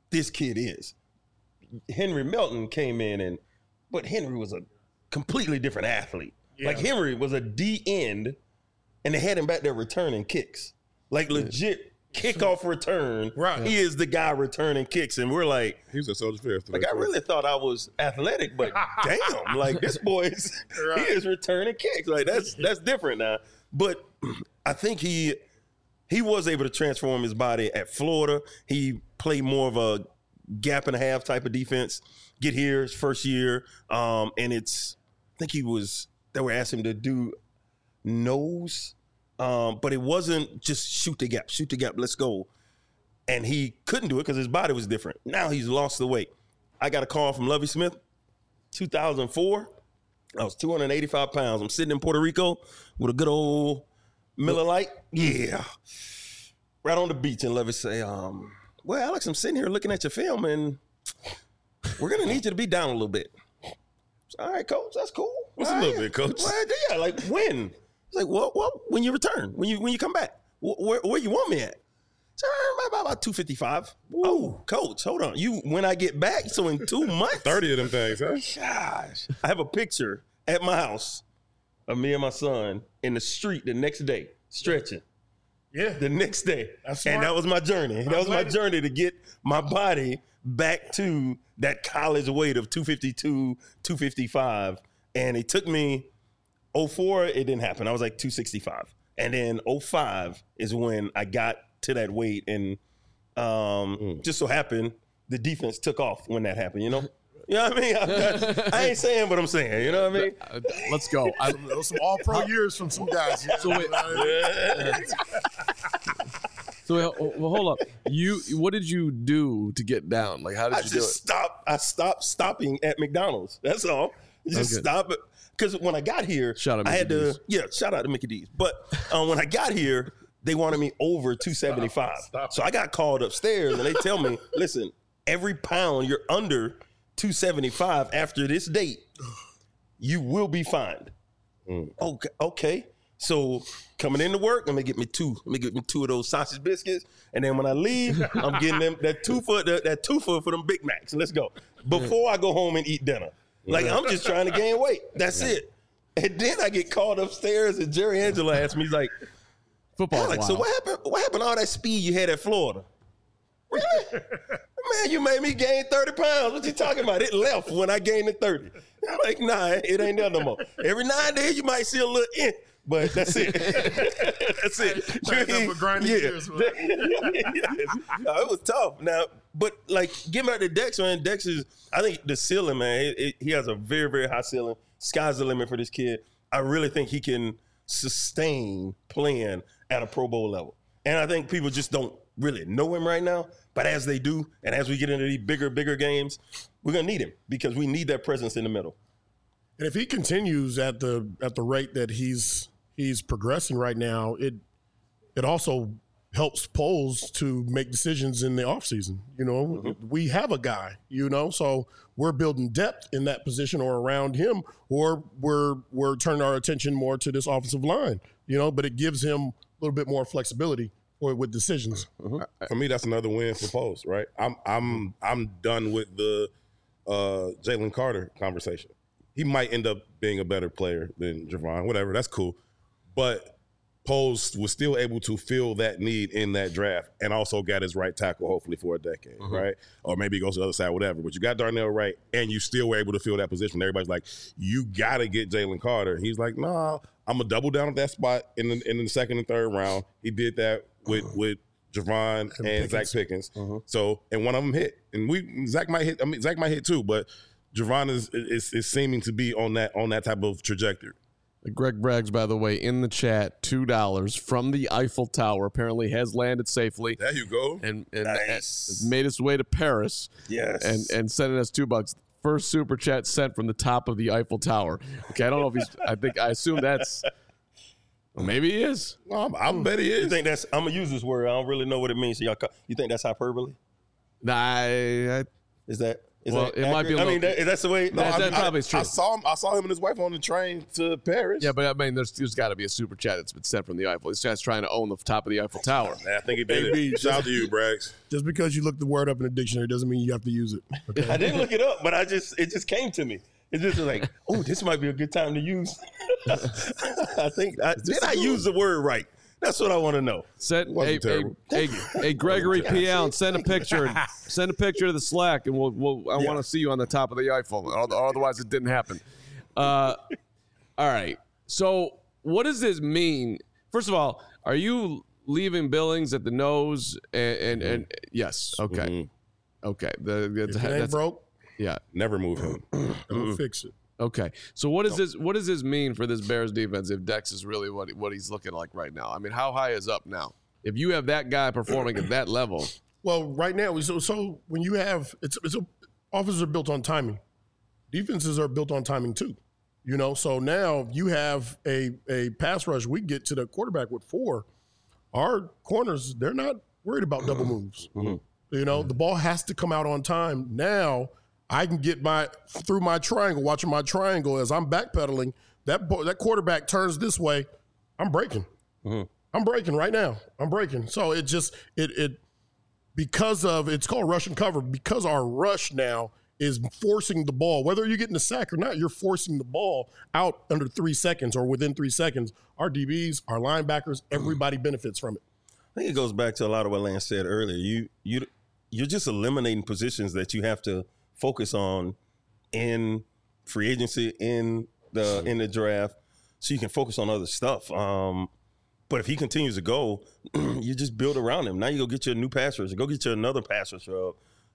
this kid is. Henry Melton came in but Henry was a completely different athlete. Yeah. Like Henry was a D end, and they had him back there returning kicks, like legit kickoff return. Right, he is the guy returning kicks, and we're like, he's a Soldier Field. Like I really thought I was athletic, but damn, like this boy he is returning kicks. Like that's different now. But I think he was able to transform his body at Florida. He played more of a gap and a half type of defense. Get here his first year, and I think they were asking him to do nose, but it wasn't just shoot the gap, let's go. And he couldn't do it because his body was different. Now he's lost the weight. I got a call from Lovie Smith, 2004. I was 285 pounds. I'm sitting in Puerto Rico with a good old Miller Lite. Yeah. Right on the beach, and Lovie say, well, Alex, I'm sitting here looking at your film, and we're going to need you to be down a little bit. All right, coach, that's cool. What's a little bit, coach? Well, yeah, like when? It's like, well, when you return, when you come back, where you want me at? So about 255. Ooh. Oh, coach, hold on. When I get back, so in 2 months. 30 of them things, huh? Gosh. I have a picture at my house of me and my son in the street the next day, stretching. Yeah. The next day. That's smart. And that was my journey. That was my journey to get my body back to that college weight of 252, 255. And it took me 04, it didn't happen. I was like 265. And then 05 is when I got to that weight. And just so happened, the defense took off when that happened, you know? You know what I mean? I ain't saying what I'm saying. You know what I mean? Let's go. Those some all-pro years from some guys. So wait. So hold up. What did you do to get down? Like, how did you do it? I stopped stopping at McDonald's. That's all. Just stop it. Because when I got here, shout out to Mickey D's. But when I got here, they wanted me over 275. So I got called upstairs, and they tell me, listen, every pound you're under 275 after this date, you will be fined. Okay. So coming into work, let me get me two of those sausage biscuits, and then when I leave, I'm getting them that two for them Big Macs. Let's go before I go home and eat dinner. Like I'm just trying to gain weight. That's it. And then I get called upstairs, and Jerry Angelo asked me, he's like, "Football, Alex, so what happened? What happened to all that speed you had at Florida?" Really? Man, you made me gain 30 pounds. What you talking about? It left when I gained the 30. I'm like, nah, it ain't there no more. Every now and then you might see a little but that's it. That's it. Years, it was tough. Now, but like, getting back to Dex, man, Dex is, I think the ceiling, man, he has a very, very high ceiling. Sky's the limit for this kid. I really think he can sustain playing at a Pro Bowl level. And I think people just don't really know him right now. But as they do, and as we get into these bigger games, we're gonna need him because we need that presence in the middle. And if he continues at the rate that he's progressing right now, it also helps Poles to make decisions in the offseason. You know, we have a guy, you know, so we're building depth in that position or around him, or we're turning our attention more to this offensive line, you know, but it gives him a little bit more flexibility with decisions. For me, that's another win for Poles, right? I'm done with the Jalen Carter conversation. He might end up being a better player than Javon, whatever. That's cool. But Poles was still able to fill that need in that draft and also got his right tackle, hopefully, for a decade, right? Or maybe he goes to the other side, whatever. But you got Darnell Wright, and you still were able to fill that position. Everybody's like, you got to get Jalen Carter. He's like, nah, I'm going to double down at that spot in the second and third round. He did that with Javon and Zach Pickens. So, and one of them hit. And Zach might hit too, but Javon is seeming to be on that type of trajectory. Greg Braggs, by the way, in the chat, $2 from the Eiffel Tower. Apparently has landed safely. There you go. And nice. made its way to Paris. Yes. And sending us $2. First super chat sent from the top of the Eiffel Tower. Okay, I don't know if I assume that's, well, maybe he is. Well, I bet he is. You think that's, I'm going to use this word. I don't really know what it means. So you think that's hyperbole? Nah, Is that Is Well, that it might be a accurate? I mean, little- that's the way. No, That probably is true. I saw him and his wife on the train to Paris. Yeah, but I mean, there's got to be a super chat that's been sent from the Eiffel. This guy's trying to own the top of the Eiffel Tower. I think he did AB, it. Shout out to you, Braggs. Just because you look the word up in the dictionary doesn't mean you have to use it. Okay? I didn't look it up, but it just came to me. It just was like, oh, this might be a good time to use. I think did I use the word right? That's what I want to know. Send Wasn't terrible. hey, Gregory P. Allen, send a picture. Send a picture to the Slack, and I want to see you on the top of the Eiffel. Otherwise, it didn't happen. All right. So, what does this mean? First of all, are you leaving Billings at the nose? And yes, okay, okay. If it ain't broke, yeah. Never move him. don't fix it. Okay, so what does this mean for this Bears defense if Dex is really what he's looking like right now? I mean, how high is up now? If you have that guy performing at that level, Well, right now, so when you have offenses are built on timing, defenses are built on timing too. You know, so now you have a pass rush. We get to the quarterback with 4. Our corners, they're not worried about double moves. You know, the ball has to come out on time. Now I can get through my triangle, watching my triangle as I'm backpedaling. That quarterback turns this way, I'm breaking. I'm breaking right now. I'm breaking. So it just because of it's called rush and cover, because our rush now is forcing the ball, whether you're getting a sack or not, you're forcing the ball out under 3 seconds or within 3 seconds. Our DBs, our linebackers, everybody benefits from it. I think it goes back to a lot of what Lance said earlier. You're just eliminating positions that you have to focus on in free agency, in the draft, so you can focus on other stuff. But if he continues to go, you just build around him. Now you go get you a new pass rusher. Go get you another pass rusher.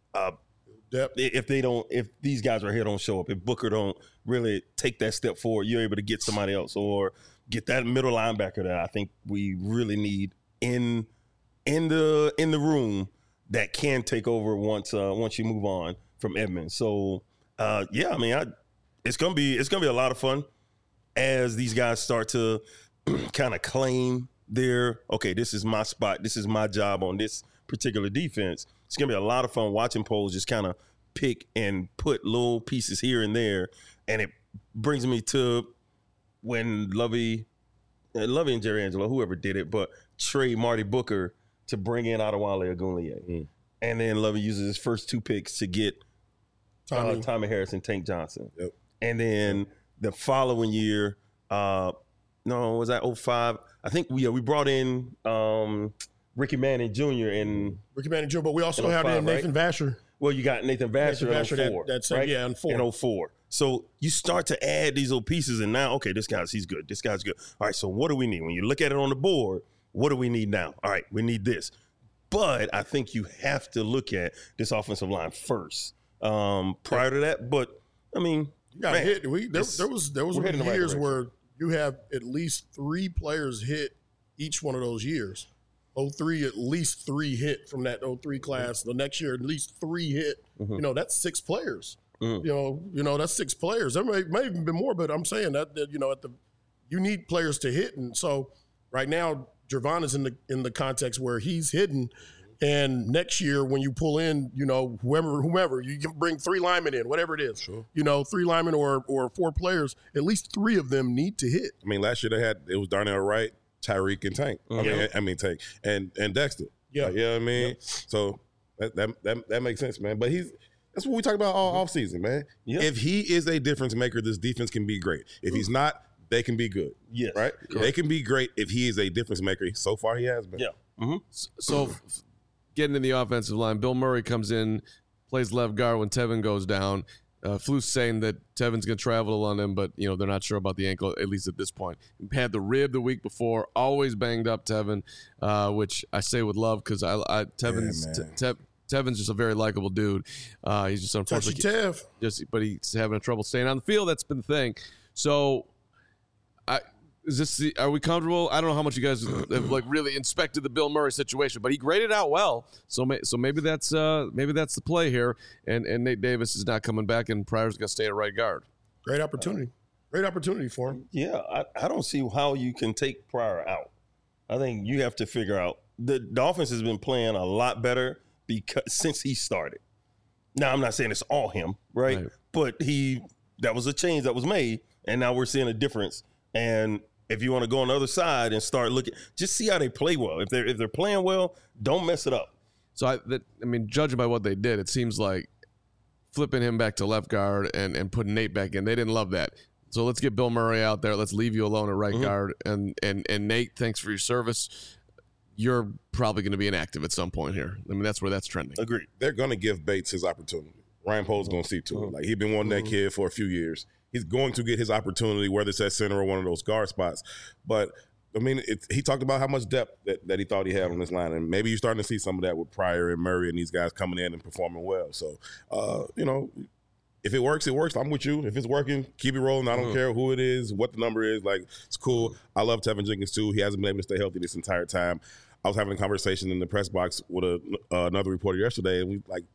If these guys right here don't show up, if Booker don't really take that step forward, you're able to get somebody else or get that middle linebacker that I think we really need in the room that can take over once you move on from Edmonds. So yeah, I mean, it's gonna be a lot of fun as these guys start to kind of claim this is my spot, this is my job on this particular defense. It's gonna be a lot of fun watching Poles just kind of pick and put little pieces here and there, and it brings me to when Lovey and Jerry Angelo, whoever did it, but trade Marty Booker to bring in Adewale Ogunleye. And then Lovey uses his first 2 picks to get Tommy Harris and Tank Johnson. Yep. And then the following year, was that 05? I think we brought in Ricky Manning Jr. But we also have Nathan Vasher. Well, you got Nathan Vasher in 04. That's right? Yeah, in 4. In 04. So you start to add these little pieces, and now, okay, he's good. This guy's good. All right, so what do we need? When you look at it on the board, what do we need now? All right, we need this. But I think you have to look at this offensive line first prior to that. But, I mean, you got hit. There was years where you have at least 3 players hit each one of those years. 03, at least 3 hit from that 03 class. The next year, at least 3 hit. You know, that's 6 players. You know, that's 6 players. There may even be more, but I'm saying that you know, you need players to hit. And so right now, Jervon is in the context where he's hidden. And next year, when you pull in, you know, whomever, you can bring 3 linemen in, whatever it is. Sure. You know, 3 linemen or 4 players, at least 3 of them need to hit. I mean, last year it was Darnell Wright, Tyreek, and Tank. I mean Tank and Dexter. Yeah. You know what I mean? Yeah. So that makes sense, man. But that's what we talk about all offseason, man. Yeah. If he is a difference maker, this defense can be great. If he's not, they can be good. Yes. Right? Correct. They can be great if he is a difference maker. So far, he has been. Yeah. So getting in the offensive line, Bill Murray comes in, plays left guard when Tevin goes down. Flu's saying that Tevin's going to travel on him, but, you know, they're not sure about the ankle, at least at this point. He had the rib the week before, always banged up Tevin, which I say with love because Tevin's just a very likable dude. He's just unfortunately but he's having trouble staying on the field. That's been the thing. So, are we comfortable? I don't know how much you guys have really inspected the Bill Murray situation, but he graded out well. So maybe that's the play here. And Nate Davis is not coming back, and Pryor's going to stay at right guard. Great opportunity for him. Yeah, I don't see how you can take Pryor out. I think you have to figure out the offense has been playing a lot better since he started. Now, I'm not saying it's all him, right? But that was a change that was made, and now we're seeing a difference. And if you want to go on the other side and start looking, just see how they play well. If they're playing well, don't mess it up. So, I mean, judging by what they did, it seems like flipping him back to left guard and putting Nate back in, they didn't love that. So let's get Bill Murray out there. Let's leave you alone at right guard. And Nate, thanks for your service. You're probably going to be inactive at some point here. I mean, that's where that's trending. Agreed. They're going to give Bates his opportunity. Ryan Poles going to see to it. Like, he's been wanting that kid for a few years. He's going to get his opportunity, whether it's at center or one of those guard spots. But, I mean, he talked about how much depth that he thought he had on this line. And maybe you're starting to see some of that with Pryor and Murray and these guys coming in and performing well. So, you know, if it works, it works. I'm with you. If it's working, keep it rolling. I don't care who it is, what the number is. Like, it's cool. I love Tevin Jenkins, too. He hasn't been able to stay healthy this entire time. I was having a conversation in the press box with another reporter yesterday, and we like,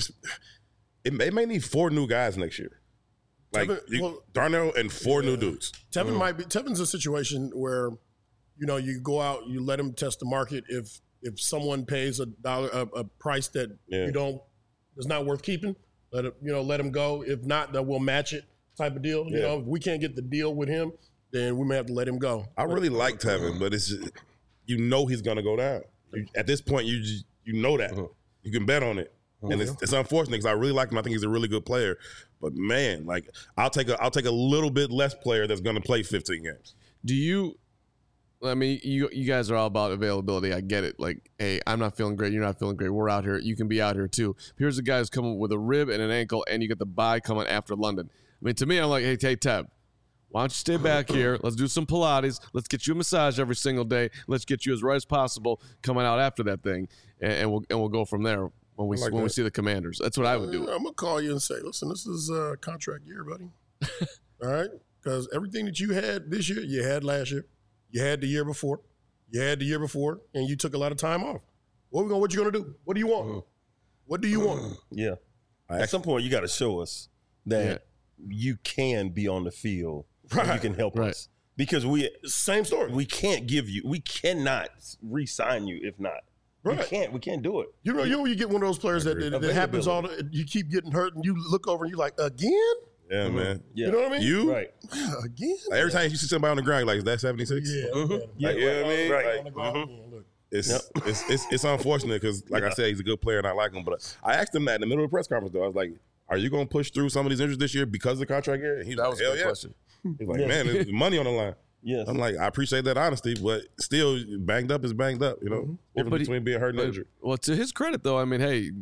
it may need 4 new guys next year. Like, Darnell and 4 new dudes. Tevin's a situation where, you know, you go out, you let him test the market. If someone pays a price that is not worth keeping, let him go. If not, then we'll match it type of deal. You know, if we can't get the deal with him, then we may have to let him go. I really like Tevin, but it's just, you know he's going to go down. At this point, you know that. You can bet on it. And it's unfortunate because I really like him. I think he's a really good player. But, man, like, I'll take a little bit less player that's going to play 15 games. Do you – I mean, you guys are all about availability. I get it. Like, hey, I'm not feeling great. You're not feeling great. We're out here. You can be out here too. Here's a guy who's coming with a rib and an ankle, and you get the bye coming after London. I mean, to me, I'm like, hey, Teb, why don't you stay back here? Let's do some Pilates. Let's get you a massage every single day. Let's get you as right as possible coming out after that thing, and we'll go from there when we see the Commanders. That's what I would do. I'm gonna call you and say, listen, this is a contract year, buddy. All right, because everything that you had this year, you had last year, you had the year before, and you took a lot of time off. What you gonna do? What do you want? What do you want? Yeah. At some point, you got to show us that you can be on the field. Right. You can help us because same story. We cannot re-sign you if not. Right. We can't do it. You know, you get one of those players that happens you keep getting hurt and you look over and you're like, again? Yeah, man. Yeah. You know what I mean? You? Right. Again? Like, every time you see somebody on the ground, you're like, is that 76? Yeah. Like, you know what I mean? Right. Like, it's unfortunate because, like I said, he's a good player and I like him. But I asked him that in the middle of the press conference, though. I was like, are you going to push through some of these injuries this year because of the contract year? And he's like, hell yeah. Question. He's like, man, there's money on the line. Yes. I'm like, I appreciate that honesty, but still, banged up is banged up, you know? Difference between being hurt and injured. Well, to his credit, though, I mean, hey,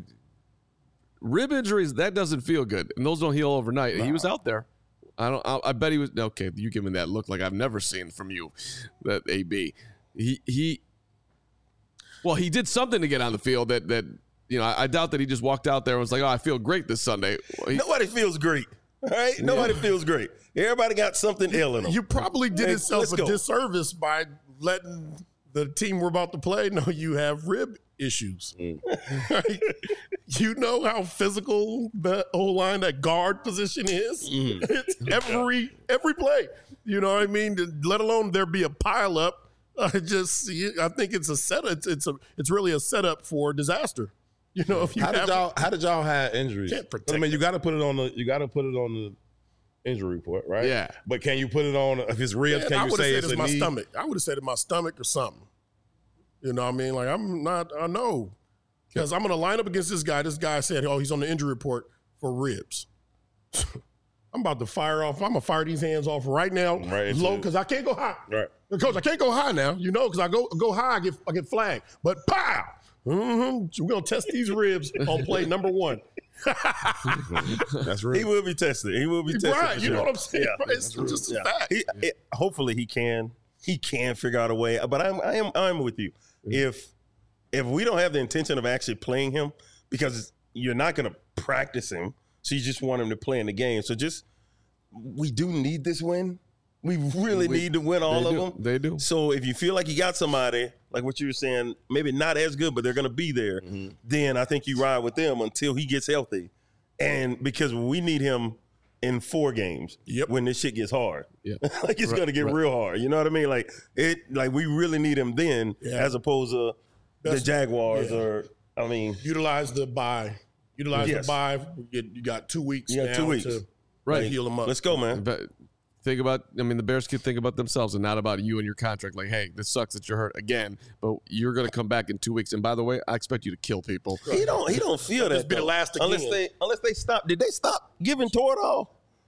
rib injuries, that doesn't feel good. And those don't heal overnight. Nah. He was out there. I bet he was, okay, you give me that look like I've never seen from you, that AB. He did something to get on the field that you know, I doubt that he just walked out there and was like, oh, I feel great this Sunday. Nobody feels great. All right? Nobody feels great. Everybody got something ailing them. You probably did yourself a disservice by letting the team we're about to play know you have rib issues. Right? You know how physical the O-line, that guard position is? It's every play. You know what I mean? Let alone there be a pile up. I think it's a setup. It's really a setup for disaster. You know, if you how did y'all have injuries? I mean, you got to put it on the injury report, right? Yeah. But can you put it on if it's ribs? Can you say it's my knee? stomach? I would have said it's my stomach or something. You know what I mean? Like I know because I'm going to line up against this guy. This guy said, "Oh, he's on the injury report for ribs." I'm about to fire off. I'm gonna fire these hands off right now, low, because I can't go high. Right, Coach, I can't go high now. You know, because I go high, I get flagged. But pow. We're going to test these ribs on play number 1. That's real. He will be tested. Right. You know what I'm saying? Yeah. Right. It's just a fact. Hopefully he can figure out a way. But I'm with you. If we don't have the intention of actually playing him, because you're not going to practice him, so you just want him to play in the game. So we do need this win. We really need to win all of them. They do. So if you feel like you got somebody, like what you were saying, maybe not as good, but they're going to be there, then I think you ride with them until he gets healthy. And because we need him in 4 games when this shit gets hard. Yeah. Like it's going to get real hard. You know what I mean? Like we really need him then as opposed to the Jaguars utilize the bye. Utilize Yes. the bye. You got 2 weeks. You got 2 now weeks. to Right. heal them up. Let's go, man. But think about, I mean, the Bears could think about themselves and not about you and your contract. Like, hey, this sucks that you're hurt again, but you're going to come back in 2 weeks. And by the way, I expect you to kill people. He don't feel that. Just be the though. last again. Unless they stop. Did they stop giving Toradol?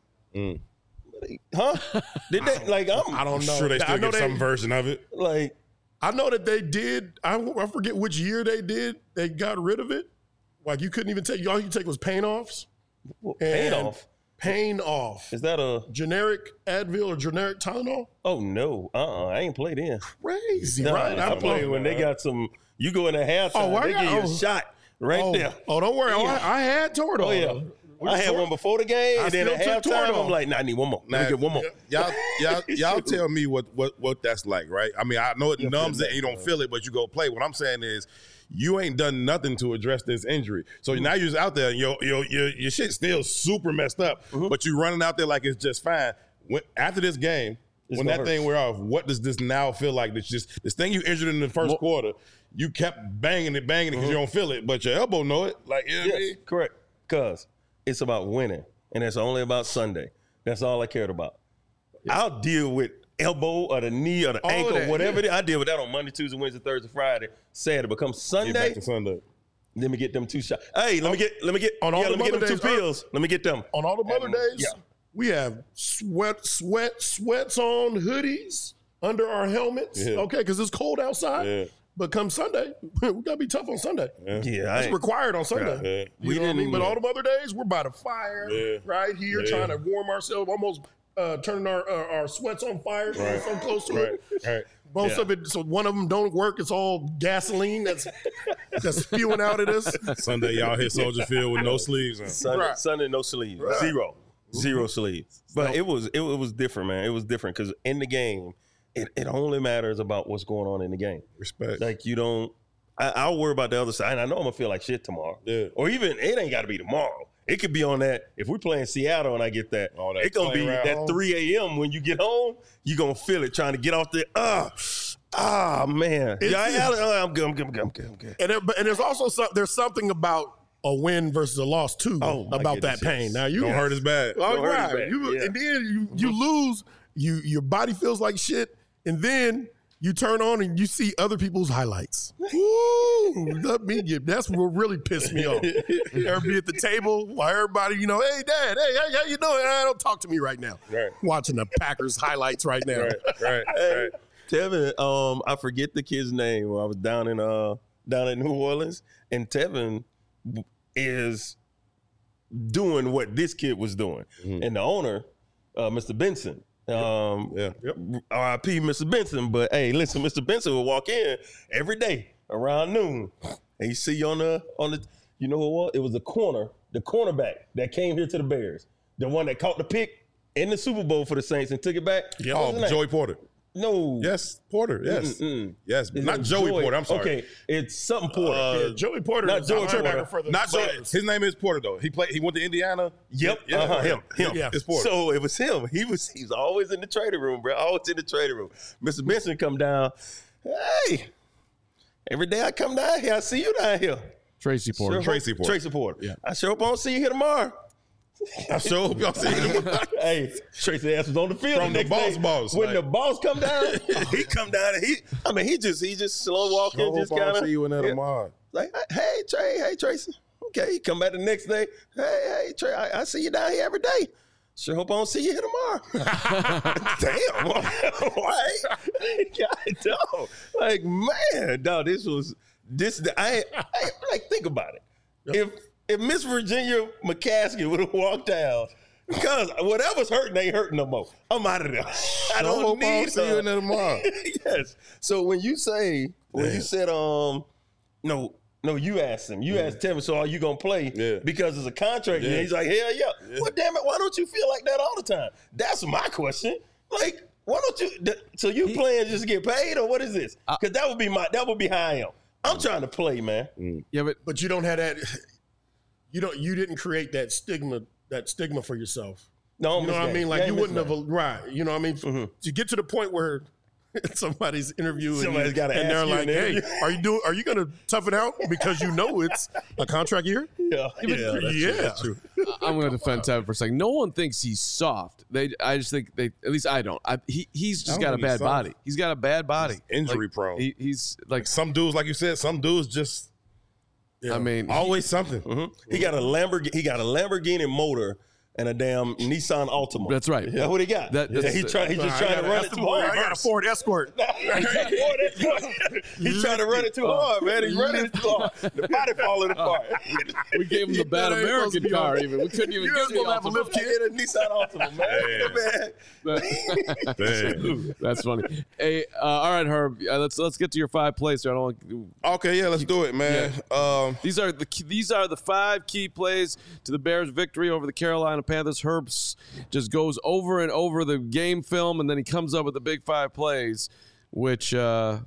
Huh? Did they? Like I I'm don't know. Sure, they I still know get some version of it. like I know that they did. I forget which year they did. They got rid of it. Like you couldn't even take. All you could take was pain offs. pain And off. Pain off. Is that a? Generic Advil or generic Tylenol? Oh no. I ain't played in. Crazy, No, right? I played when they got some. You go in the halftime. Oh, why they give you a oh. shot right there. Oh, don't worry. Yeah. I had Toradol. Oh yeah. I had one before the game, I and then at still took halftime, Toradol. I'm like, nah, I need one more. Let me Now, get one more. Y'all tell me what that's like, right? I mean, I know it numbs it and you don't feel it, but you go play. What I'm saying is, you ain't done nothing to address this injury. So now you're out there, and your shit's still super messed up, but you running out there like it's just fine. After this game, when gonna that hurt. thing wear off, what does this now feel like? This thing you injured in the first quarter, you kept banging it because you don't feel it, but your elbow know it. Like, you know what I mean? Yes, correct. Because it's about winning, and it's only about Sunday. That's all I cared about. I'll deal with elbow or the knee or the All of ankle, that, whatever it is. I deal with that on Monday, Tuesday, Wednesday, Thursday, Friday. Saturday becomes Get Sunday. back to Sunday. Let me get them 2 shots. Hey, let me get On all the let me get them Mother 2 days, pills. Let me get them. On all the Mother days, yeah. we have sweats on hoodies under our helmets. Yeah. Okay, because it's cold outside. Yeah. But come Sunday, we gotta be tough on Sunday. Yeah, It's required on Sunday. Yeah. You know what I mean? But all the other days, we're by the fire right here, trying to warm ourselves, almost turning our sweats on fire, so close to it. Right. Most of it, so one of them don't work. It's all gasoline that's spewing out of this. Sunday, y'all hit Soldier Field with no sleeves on. Sunday, no sleeves. Zero sleeves. But it was different, man. It was different because in the game, it only matters about what's going on in the game. Respect. Like you don't. I'll worry about the other side. And I know I'm gonna feel like shit tomorrow. Yeah. Or even it ain't got to be tomorrow. It could be on that. If we play in Seattle and I get that, Oh, that it's gonna be plane ride that home. 3 a.m. when you get home. You gonna feel it trying to get off there. Man. I'm good. And there's also there's something about a win versus a loss too about that goodness, pain. yes. Now you Don't hurt as bad. Oh, Don't hurt right. as bad. Yeah. And then you lose. Your body feels like shit, and then you turn on and you see other people's highlights. Ooh, let me get. That's what really pissed me off. Ever be at the table while everybody, hey, Dad, hey, how you doing? Don't talk to me right now. Right. Watching the Packers highlights right now. Right. Tevin, I forget the kid's name. I was down in New Orleans, and Tevin is doing what this kid was doing, and the owner, Mr. Benson. R.I.P. Mr. Benson. But hey, listen, Mr. Benson will walk in every day around noon, and you see on the you know what? It was the cornerback that came here to the Bears, the one that caught the pick in the Super Bowl for the Saints and took it back. Yeah. What was his name? Joey Porter. No. Yes, Porter. Yes. Yes. Is Not it Joey Porter. I'm sorry. Okay, it's something Porter. Yeah, Joey Porter not is Joey the linebacker Porter. for the Not Joey. Bears. His name is Porter though. He went to Indiana. Yep. Yeah. Him. Yeah. It's Porter. So it was him. He was always in the trading room, bro. Always in the trading room. Mr. Benson come down. Hey, every day I come down here, I see you down here. Tracy Porter. Sure Tracy hope- Porter. Tracy Porter. Yeah. I sure hope I don't see you here tomorrow. I sure hope y'all see him. Hey, Tracy ass was on the field From the next day. boss, When like- the boss come down, he come down and he just slow walking, Sure just hope I kind don't of see you in there tomorrow. like, hey Tracy. Okay, he come back the next day. Hey Trey, I see you down here every day. Sure hope I don't see you here tomorrow. Damn, why? God, dog. Like, man, dog, I like, think about it. If Miss Virginia McCaskey would have walked down, because whatever's hurting ain't hurting no more. I'm out of there. I don't hope I need don't see you in there tomorrow. Yes. So when you said, no, you asked him. You asked Tevin, so are you going to play? Yeah. Because it's a contract. Yeah. And he's like, hell yeah. Well, damn it, why don't you feel like that all the time? That's my question. Like, why don't you? So you playing just to get paid, or what is this? Because that would be how I am. I'm trying to play, man. Yeah, But you don't have that. You didn't create that stigma for yourself. No, You know what I mean? Like you wouldn't have, have. right? You know what I mean? To get to the point where somebody's interviewing, Somebody's you, gotta and they're ask you like, in the "Hey, interview." are you going to tough it out because you know it's a contract year?" That's true. I'm going to defend Tevin for a second. No one thinks he's soft. I just think at least I don't. He's just got a bad body. He's got a bad body. He's injury prone. He's like some dudes, like you said, some dudes just. I mean, always something. Mm-hmm. He got a Lamborghini motor and a damn Nissan Altima. That's right. That's what he got. He's just trying to run it too hard. I got a Ford Escort. He's trying to run it too hard, man. He's running it too hard. The body falling apart. We gave him the bad American car. Even we couldn't even get the have a lift kit in a Nissan Altima, man. That's funny. Hey, all right, Herb. Let's get to your 5 plays. So I don't want. Okay, yeah, let's do it, man. Yeah. These are the 5 key plays to the Bears' victory over the Carolina Panthers. Herb just goes over and over the game film, and then he comes up with the big 5 plays, which it's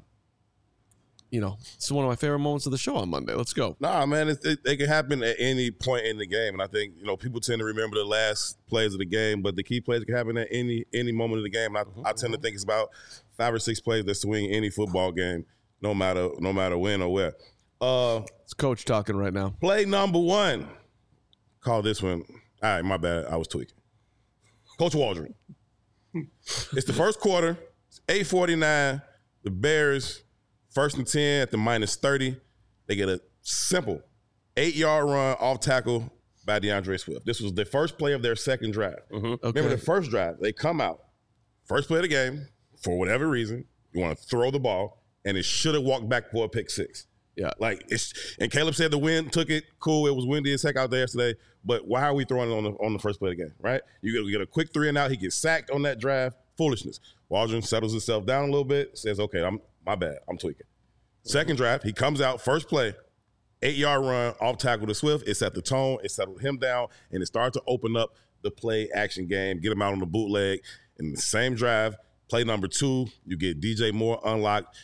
one of my favorite moments of the show on Monday. Let's go. Nah, man, it can happen at any point in the game, and I think people tend to remember the last plays of the game, but the key plays can happen at any moment of the game. And I tend to think it's about 5 or 6 plays that swing any football game, no matter when or where. It's Coach talking right now. Play number 1. Call this one. All right, my bad. I was tweaking. Coach Waldron. It's the first quarter. It's 8:49. The Bears, 1st and 10 at the -30. They get a simple 8-yard run off tackle by DeAndre Swift. This was the first play of their second drive. Okay. Remember the first drive, they come out. First play of the game, for whatever reason, you want to throw the ball, and it should have walked back for a pick 6. Yeah. And Caleb said the wind took it. Cool. It was windy as heck out there yesterday. But why are we throwing it on the first play of the game, right? You get a quick 3 and out. He gets sacked on that drive. Foolishness. Waldron settles himself down a little bit, says, okay, my bad. I'm tweaking. Second drive, he comes out, first play, 8-yard run, off tackle to Swift. It set the tone. It settled him down, and it started to open up the play action game, get him out on the bootleg. In the same drive, play number 2, you get DJ Moore unlocked.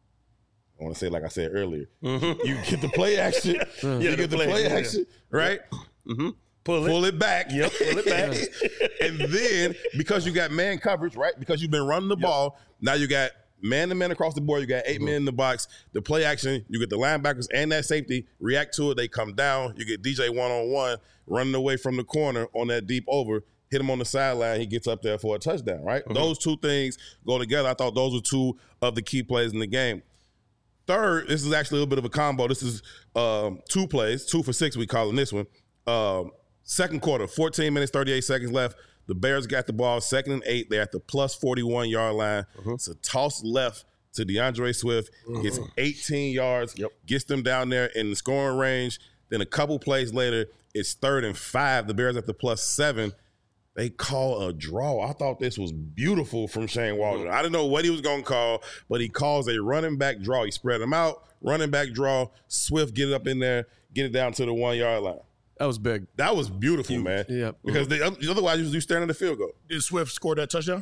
I want to say, like I said earlier, you get the play action. You get the play action, right? Mm-hmm. Pull it back. Yep, pull it back. And then, because you got man coverage, right? Because you've been running the ball, now you got man-to-man across the board. You got 8 men in the box. The play action, you get the linebackers and that safety react to it. They come down. You get DJ one-on-one running away from the corner on that deep over. Hit him on the sideline. He gets up there for a touchdown, right? Mm-hmm. Those 2 things go together. I thought those were 2 of the key plays in the game. Third, this is actually a little bit of a combo. This is 2 plays, 2 for 6 we call in this one. Second quarter, 14 minutes, 38 seconds left. The Bears got the ball, 2nd and 8. They're at the plus 41-yard line. It's a toss left to DeAndre Swift. Gets 18 yards, gets them down there in the scoring range. Then a couple plays later, it's 3rd and 5. The Bears at the plus 7. They call a draw. I thought this was beautiful from Shane Waldron. I didn't know what he was going to call, but he calls a running back draw. He spread them out, running back draw. Swift get it up in there, get it down to the 1-yard line. That was big. That was beautiful, man. Yeah. Because otherwise you staring at the field goal. Did Swift score that touchdown?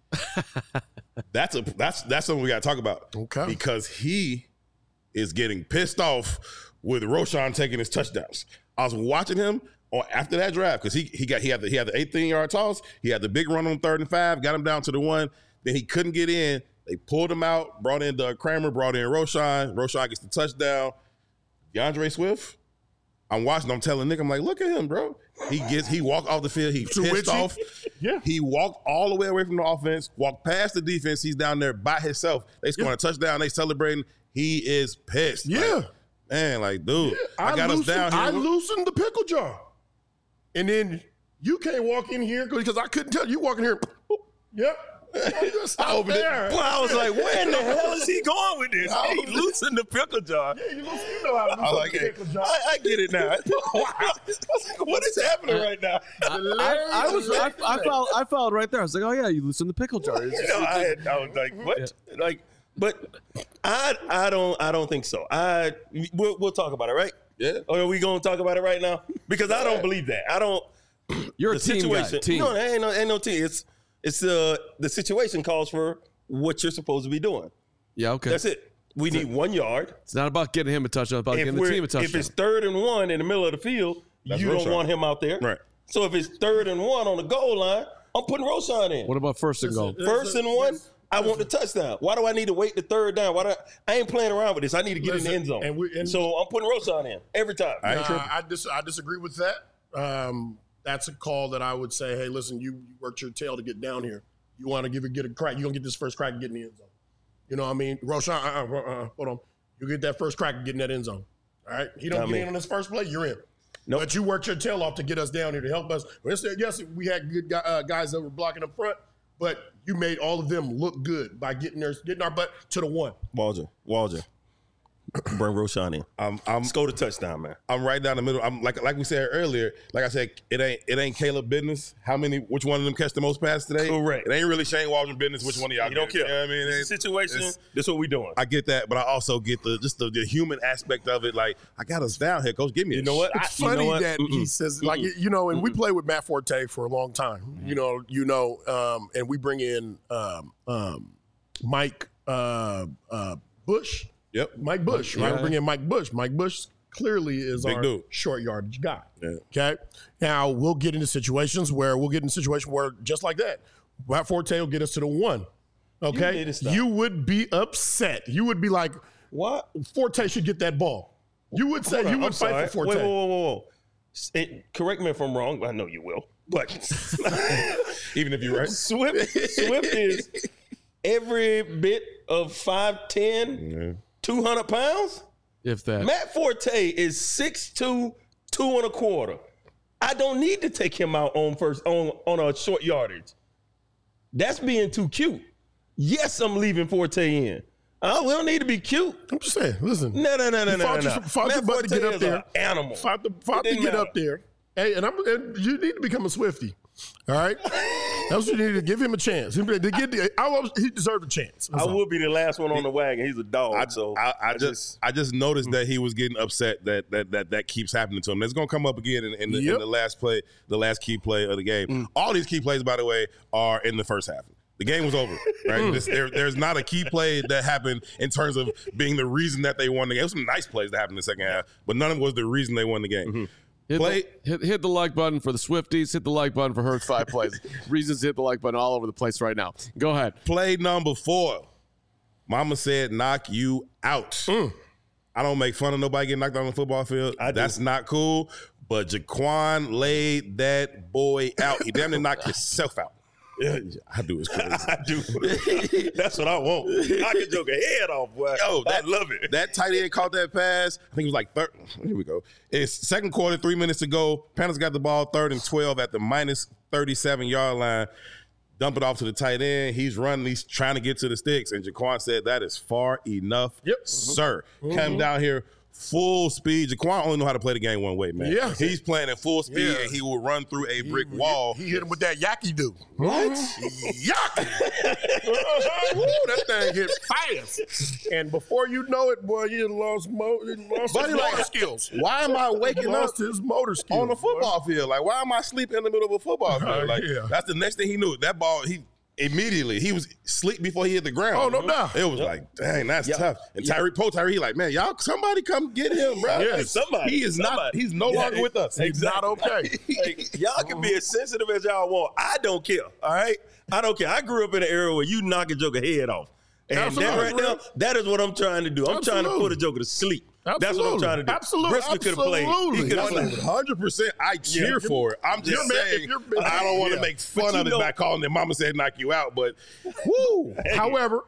That's something we got to talk about. Okay. Because he is getting pissed off with Roschon taking his touchdowns. I was watching him after that drive because he had the 18-yard toss. He had the big run on 3rd and 5, got him down to the 1. Then he couldn't get in. They pulled him out, brought in Doug Kramer, brought in Roschon. Roschon gets the touchdown. DeAndre Swift, I'm watching. I'm telling Nick, I'm like, look at him, bro. He walked off the field. He pissed off. Yeah. He walked all the way away from the offense, walked past the defense. He's down there by himself. They scoring a touchdown. They celebrating. He is pissed. Yeah. Dude, I got us down here. I loosened the pickle jar. And then you can't walk in here because I couldn't tell you walking here. Yep. I opened it. Well, I was like, where in the hell is he going with this? He loosened the pickle jar. Yeah, you know how to loosen the pickle jar. I get it now. I was like, what is happening right now? I followed right there. I was like, oh yeah, you loosened the pickle jar. I was like, what? Yeah. Like, but I don't think so. We'll talk about it, right? Yeah. Or are we gonna talk about it right now? Because I don't believe that. I don't. You're a team guy. Team. No, there ain't no team. It's the situation calls for what you're supposed to be doing. Yeah, okay. That's it. We need 1 yard. It's not about getting him a touchdown. It's about getting the team a touchdown. If it's 3rd and 1 in the middle of the field, you don't want him out there. Right. So if it's 3rd and 1 on the goal line, I'm putting Roschon in. What about 1st and goal? 1st and 1, I want the touchdown. Why do I need to wait the third down? I ain't playing around with this. I need to get in the end zone. So I'm putting Roschon in every time. I disagree with that. That's a call that I would say, hey, listen, you worked your tail to get down here. You want to get a crack. You're going to get this first crack and get in the end zone. You know what I mean? Roschon, hold on. You get that first crack and get in that end zone. All right? He don't get in on this first play, you're in. Nope. But you worked your tail off to get us down here to help us. Yes, we had good guys that were blocking up front, but you made all of them look good by getting our butt to the one. Walger. Bring Roschon in. Let's go to touchdown, man. I'm right down the middle. I'm like we said earlier. Like I said, it ain't Caleb business. Which one of them catch the most passes today? Correct. It ain't really Shane Waldron business. Which one of y'all? You don't care. You know what I mean? It's a situation. That's what we doing. I get that, but I also get the human aspect of it. Like, I got us down here, coach. Give me. You know what? It's funny that he says and we play with Matt Forte for a long time. And we bring in Mike Bush. Yep. Mike Bush, right? We bring in Mike Bush. Mike Bush clearly is big our dude. short yardage guy. Yeah. Okay. Now we'll get into situations where just like that, Matt Forte will get us to the one. Okay. You would be upset. You would be like, what? Forte should get that ball. You would say you would fight for Forte. Whoa. Correct me if I'm wrong. I know you will. But even if you're right. Swift is every bit of 5'10", 200 pounds? If that. Matt Forte is 6'2", 2.25. I don't need to take him out on a short yardage. That's being too cute. Yes, I'm leaving Forte in. We don't need to be cute. I'm just saying, listen. No. Fought your butt to get up there. Animal. Fought to get up there. Hey, and you need to become a Swiftie. All right? That's what you need to give him a chance. He deserved a chance. I will be the last one on the wagon. He's a dog. I just noticed that he was getting upset that keeps happening to him. That's going to come up again in the last play, the last key play of the game. All these key plays, by the way, are in the first half. The game was over, right? There's not a key play that happened in terms of being the reason that they won the game. There was some nice plays that happened in the second half, but none of it was the reason they won the game. Hit the like button for the Swifties. Hit the like button for Hurts 5 plays. Reasons to hit the like button all over the place right now. Go ahead. Play number 4. Mama said, knock you out. I don't make fun of nobody getting knocked out on the football field. That's not cool. But Jaquan laid that boy out. He damn near knocked himself out. Yeah, I do. It's crazy. I do. That's what I want. I can joke a head off, boy. Yo, I love it. That tight end caught that pass. I think it was like third. Here we go. It's second quarter, 3 minutes to go. Panthers got the ball 3rd and 12 at the minus 37-yard line. Dump it off to the tight end. He's running. He's trying to get to the sticks. And Jaquan said, that is far enough, sir. Come down here. Full speed. Jaquan only know how to play the game one way, man. Yeah. He's playing at full speed, and he will run through a brick wall. He hit him with that yaki do. What? Yaki. That thing hit fast. And before you know it, boy, he lost his motor skills. Why am I waking up his motor skills on the football field? Like, why am I sleeping in the middle of a football field? Like, that's the next thing he knew. That ball, he was asleep before he hit the ground. Oh, no doubt. It was like, dang, that's tough. And Tyree, he like, man, y'all, somebody come get him, bro. Yeah, somebody. He is not. He's no longer with us. He's not okay. Y'all can be as sensitive as y'all want. I don't care. All right, I don't care. I grew up in an era where you knock a joker head off, and that right now, that is what I'm trying to do. I'm trying to put a joker to sleep. That's what I'm trying to do. Absolutely. Brisker could have played. He could have played. 100%. I cheer for it. I'm just saying, I don't want to make fun of it by calling it Mama said knock you out, but woo. However,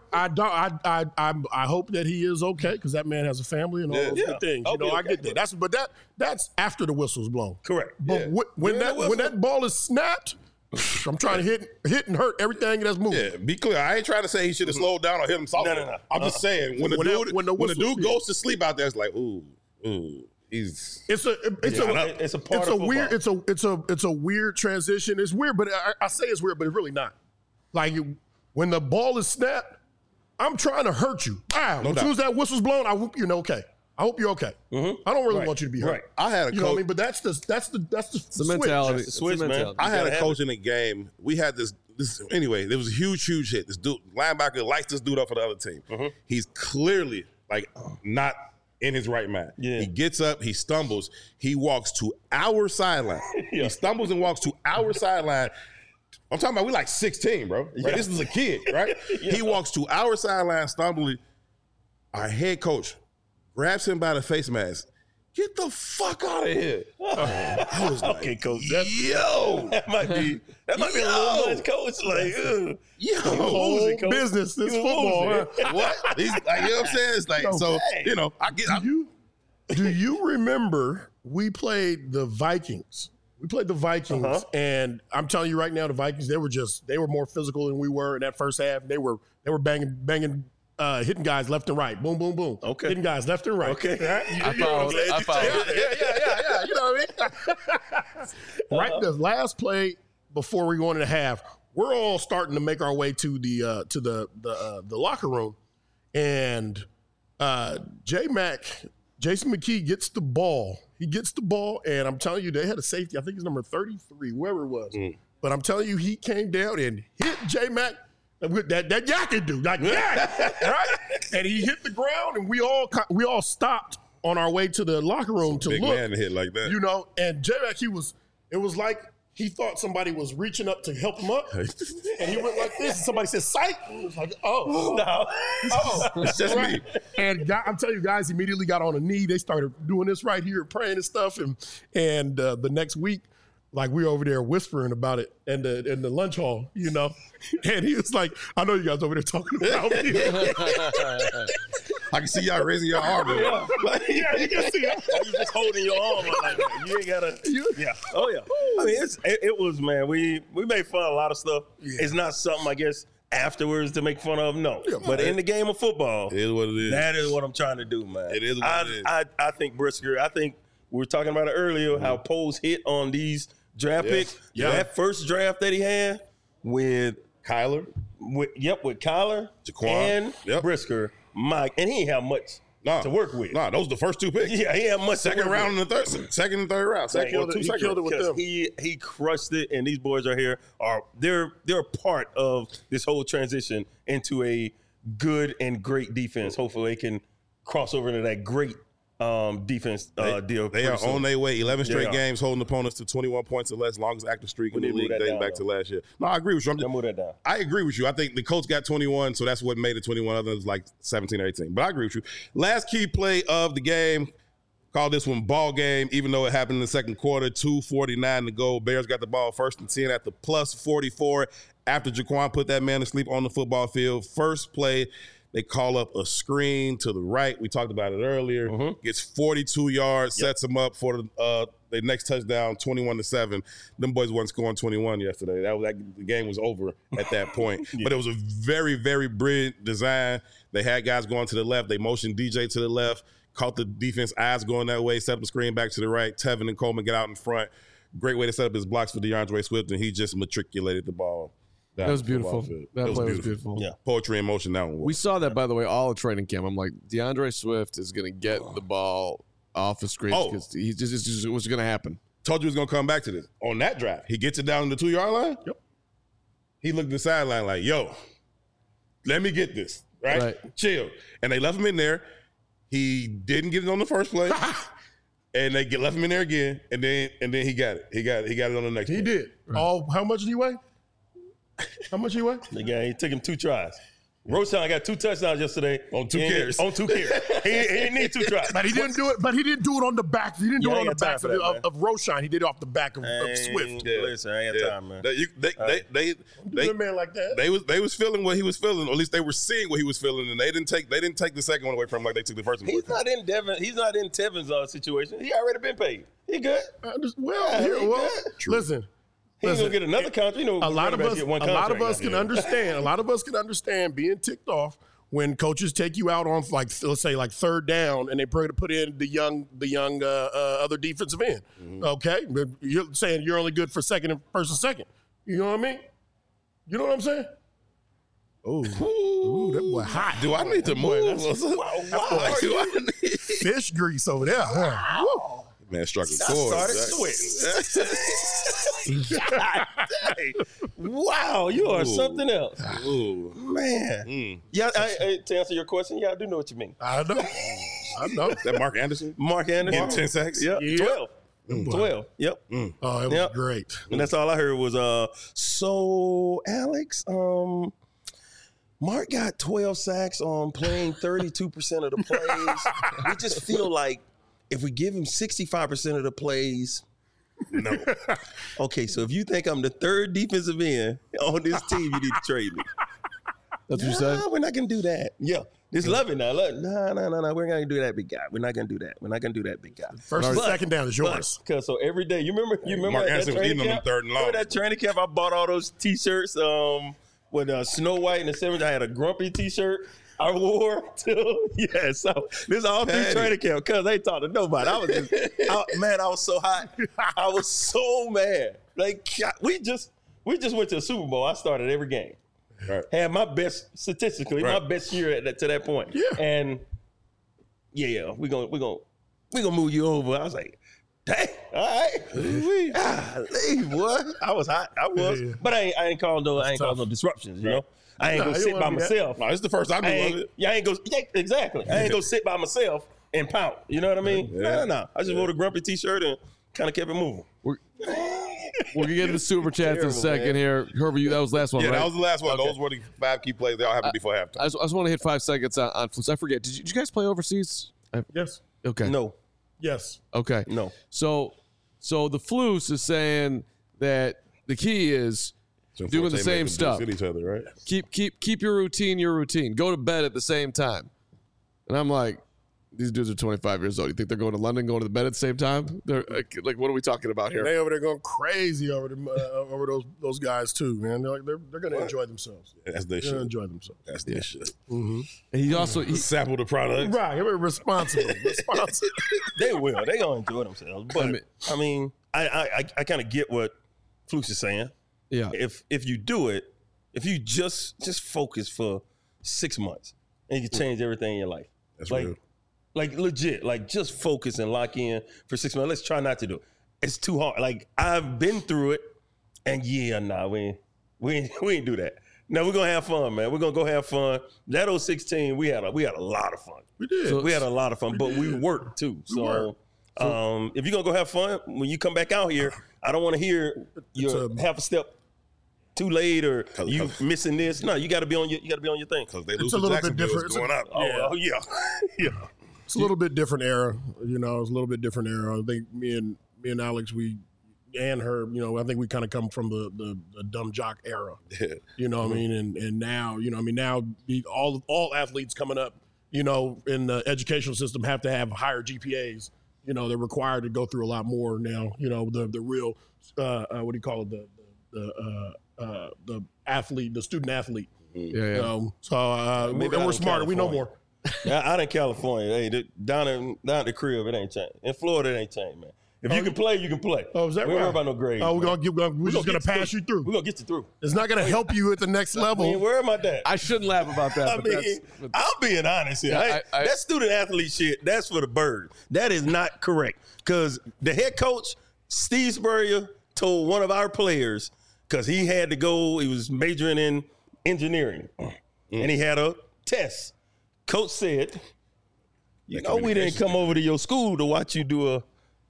I hope that he is okay because that man has a family and all those good things. I get that. That's after the whistle's blown. Correct. But when that ball is snapped, I'm trying to hit and hurt everything that's moving. Yeah, be clear. I ain't trying to say he should have slowed down or hit him soft. No. I'm just saying when the dude goes to sleep out there, it's like ooh. It's a weird transition. It's weird, but I say it's weird, but it's really not. Like when the ball is snapped, I'm trying to hurt you. As soon as that whistle's blown, I hope you're okay. I hope you're okay. I don't really want you to be hurt. Right. I had a coach. You know what I mean? But that's the mentality. Switch, man. I had a coach in the game. We had this anyway, there was a huge hit. This dude, linebacker, lights this dude up for the other team. He's clearly like not in his right mind. Yeah. He gets up, he stumbles, he walks to our sideline. He stumbles and walks to our sideline. I'm talking about we like 16, bro. Like, this is a kid, right? He walks to our sideline stumbling. Our head coach grabs him by the face mask. Get the fuck out of here. I was like, Okay, coach. yo. That might be a little much, coach. Like, Whole business, this football. Huh? What? He's like, you know what I'm saying? It's like, so, you know, Do you remember we played the Vikings? We played the Vikings, and I'm telling you right now, the Vikings, they were more physical than we were in that first half. They were banging, hitting guys left and right. Boom, boom, boom. Okay. Hitting guys left and right. Okay. Right? I followed. Yeah. You know what I mean? Right, the last play before we go into the half, we're all starting to make our way to the locker room, and Jason McKee gets the ball. He gets the ball, and I'm telling you, they had a safety. I think it's number 33, whoever it was. But I'm telling you, he came down and hit J-Mac with that yakking dude, like that, right? And he hit the ground, and we all stopped on our way to the locker room to big look. man to hit like that. You know, and J-Mac, it was like he thought somebody was reaching up to help him up, and he went like this, and somebody said, "Psych!" And it was like, "Oh, no. oh, It's just me. And I'm telling you, guys immediately got on a knee. They started doing this right here, praying and stuff. And the next week, like we were over there whispering about it in the lunch hall, you know. And he was like, "I know you guys over there talking about me." I can see y'all raising your arm. Yeah, you can see it. You just holding your arm like that. You ain't gotta. Yeah. Oh yeah. I mean, it was, man. We made fun of a lot of stuff. Yeah. It's not something, I guess, afterwards to make fun of. No. Yeah, but in the game of football, it is what it is. That is what I'm trying to do, man. It is what it is. I think Brisker. I think we were talking about it earlier. How Poles hit on these draft picks. Yeah. That first draft that he had with Kyler. With Kyler, Jaquan, and Brisker. Mike, and he ain't have much to work with. Nah, those are the first two picks. Yeah, he had much. Second round and second and third round. He killed it with them. He crushed it, and these boys are here. They're a part of this whole transition into a good and great defense. Hopefully, they can cross over into that great defense deal. They are on their way. 11 straight games holding opponents to 21 points or less, longest active streak in the league dating back to last year. No, I agree with you. Move that down. I agree with you. I think the Colts got 21, so that's what made it 21. Others like 17 or 18. But I agree with you. Last key play of the game. Call this one ball game, even though it happened in the second quarter. 2:49 to go. Bears got the ball first and 10 at the plus 44 after Jaquan put that man to sleep on the football field. First play, they call up a screen to the right. We talked about it earlier. Gets 42 yards, sets them up for the next touchdown, 21-7. Them boys wasn't scoring 21 yesterday. The game was over at that point. But it was a very, very brilliant design. They had guys going to the left. They motioned DJ to the left, caught the defense eyes going that way, set up the screen back to the right. Tevin and Coleman get out in front. Great way to set up his blocks for DeAndre Swift, and he just matriculated the ball. That was beautiful. That play was beautiful. Yeah, poetry in motion. That one. We saw that, by the way, all of training camp. I'm like, DeAndre Swift is going to get the ball off the screen because it was going to happen. Told you he was going to come back to this. On that drive, he gets it down to the 2-yard line. Yep. He looked at the sideline like, yo, let me get this. Right? Chill. And they left him in there. He didn't get it on the first play. And they left him in there again. And then he got it. He got it on the next play. He did. Right. How much did he weigh? How much he weigh? He took him 2 tries. Roshan got 2 touchdowns yesterday on 2 carries. On 2 carries, he didn't need 2 tries. But he didn't do it. But he didn't do it on the back. He didn't do it on the back of Roshan. He did it off the back of Swift. Listen, I ain't got time, man. They a man like that. They was feeling what he was feeling, or at least they were seeing what he was feeling, and they didn't take the second one away from him like they took the first one. He's not in Tevin's situation. He already been paid. He good. Listen. He's gonna get another contract. You know, a lot of us can understand. A lot of us can understand being ticked off when coaches take you out on let's say third down and they put in the young other defensive end. Okay, but you're saying you're only good for first and second. You know what I mean? You know what I'm saying? Oh, that boy hot. Do I need to move? Fish grease over there. Huh? Man struck a chord. Started sweating. Wow, you are something else. Ooh. Man. Yeah, to answer your question, I do know what you mean. I know. Is that Mark Anderson? Mark Anderson. In 10 sacks? Yeah. 12. 12. Yep. Oh, it was Yep. great. And that's all I heard was, so Alex, Mark got 12 sacks on playing 32% of the plays. We just feel like if we give him 65% of the plays, no. Okay, so if you think I'm the third defensive end on this team, you need to trade me. That's what you said? We're not going to do that. Yeah. Just love it now. Look, no. We're not going to do that, big guy. We're not going to do that. We're not going to do that, big guy. First and second down is yours. Because so every day, you remember Mark that Anderson was training eating them camp? third and long. Remember that training camp? I bought all those T-shirts with Snow White and the 7th. I had a grumpy T-shirt I wore too. Yeah, so this is all through training camp because they talked to nobody. I was just, I was so hot. I was so mad. Like we just went to a Super Bowl. I started every game. Right. Had my best statistically, my best year to that point. Yeah. And we're gonna move you over. I was like, dang, all right. Leave, boy. I was hot. I was. Yeah. But I ain't called no disruptions, you know? I ain't Nah, gonna you sit wanna by be that. myself. No, this is the first I knew of it. Exactly. I ain't gonna sit by myself and pout. You know what I mean? Yeah. No. I just wore a grumpy T-shirt and kind of kept it moving. We're gonna get to the super chats in a Terrible, second man. here. Herbert, that was the last one, Yeah, right? that was the last one. Okay. Those were the 5 key plays. They all happened before halftime. I just want to hit 5 seconds on Flus. I forget. Did you guys play overseas? Yes. Okay. No. Yes. Okay. No. So the Flus is saying that the key is So doing the Forte same made them stuff. Each other, right? Keep your routine. Go to bed at the same time. And I'm like, these dudes are 25 years old. You think they're going to London, going to the bed at the same time? They're like, what are we talking about here? They over there going crazy over those guys too, man. They're going to enjoy themselves. That's their They're going to shit. enjoy themselves. That's their shit. And he also Sample the product. Right. They're responsible. They will. They gonna enjoy themselves. But I mean, I kind of get what Flukes is saying. yeah. If you do it, if you just focus for 6 months and you can change everything in your life. That's like, real. like legit, like just focus and lock in for 6 months. Let's try not to do it. It's too hard. Like I've been through it, and we ain't do that. No, we're gonna have fun, man. We're gonna go have fun. That 06 team, we had a lot of fun. We did. So- We had a lot of fun, but we worked too. So, if you're gonna go have fun, when you come back out here, I don't want to hear you're half a step too late or you missing this. No, you got to be on your thing. Because they lose a to little bit Jacksonville, different. it's going up. Oh yeah, yeah. It's a little bit different era. You know, it's a little bit different era. I think me and Alex, and Herb, you know, I think we kind of come from the dumb jock era. Yeah. You know what I mean? And now, you know, I mean, now all athletes coming up, you know, in the educational system have to have higher GPAs. You know, they're required to go through a lot more now. You know, the real what do you call it? The athlete, the student athlete. Yeah. So Maybe we're out in smarter. We know California. more. Out in California, hey, down at the crib, it ain't changed. In Florida, it ain't changed, man. If you can play, you can play. Oh, is that we don't right? worry about no grades. Oh, man. we're just gonna pass you through. We're gonna get you through. It's not gonna help you at the next I mean, level. where am I at? I shouldn't laugh about that. I but mean, I'm being honest here. Yeah, That student athlete shit, that's for the bird. That is not correct. Because the head coach, Steve Spurrier, told one of our players, because he had to go, he was majoring in engineering, and he had a test. Coach said, you know, we didn't come over to your school to watch you do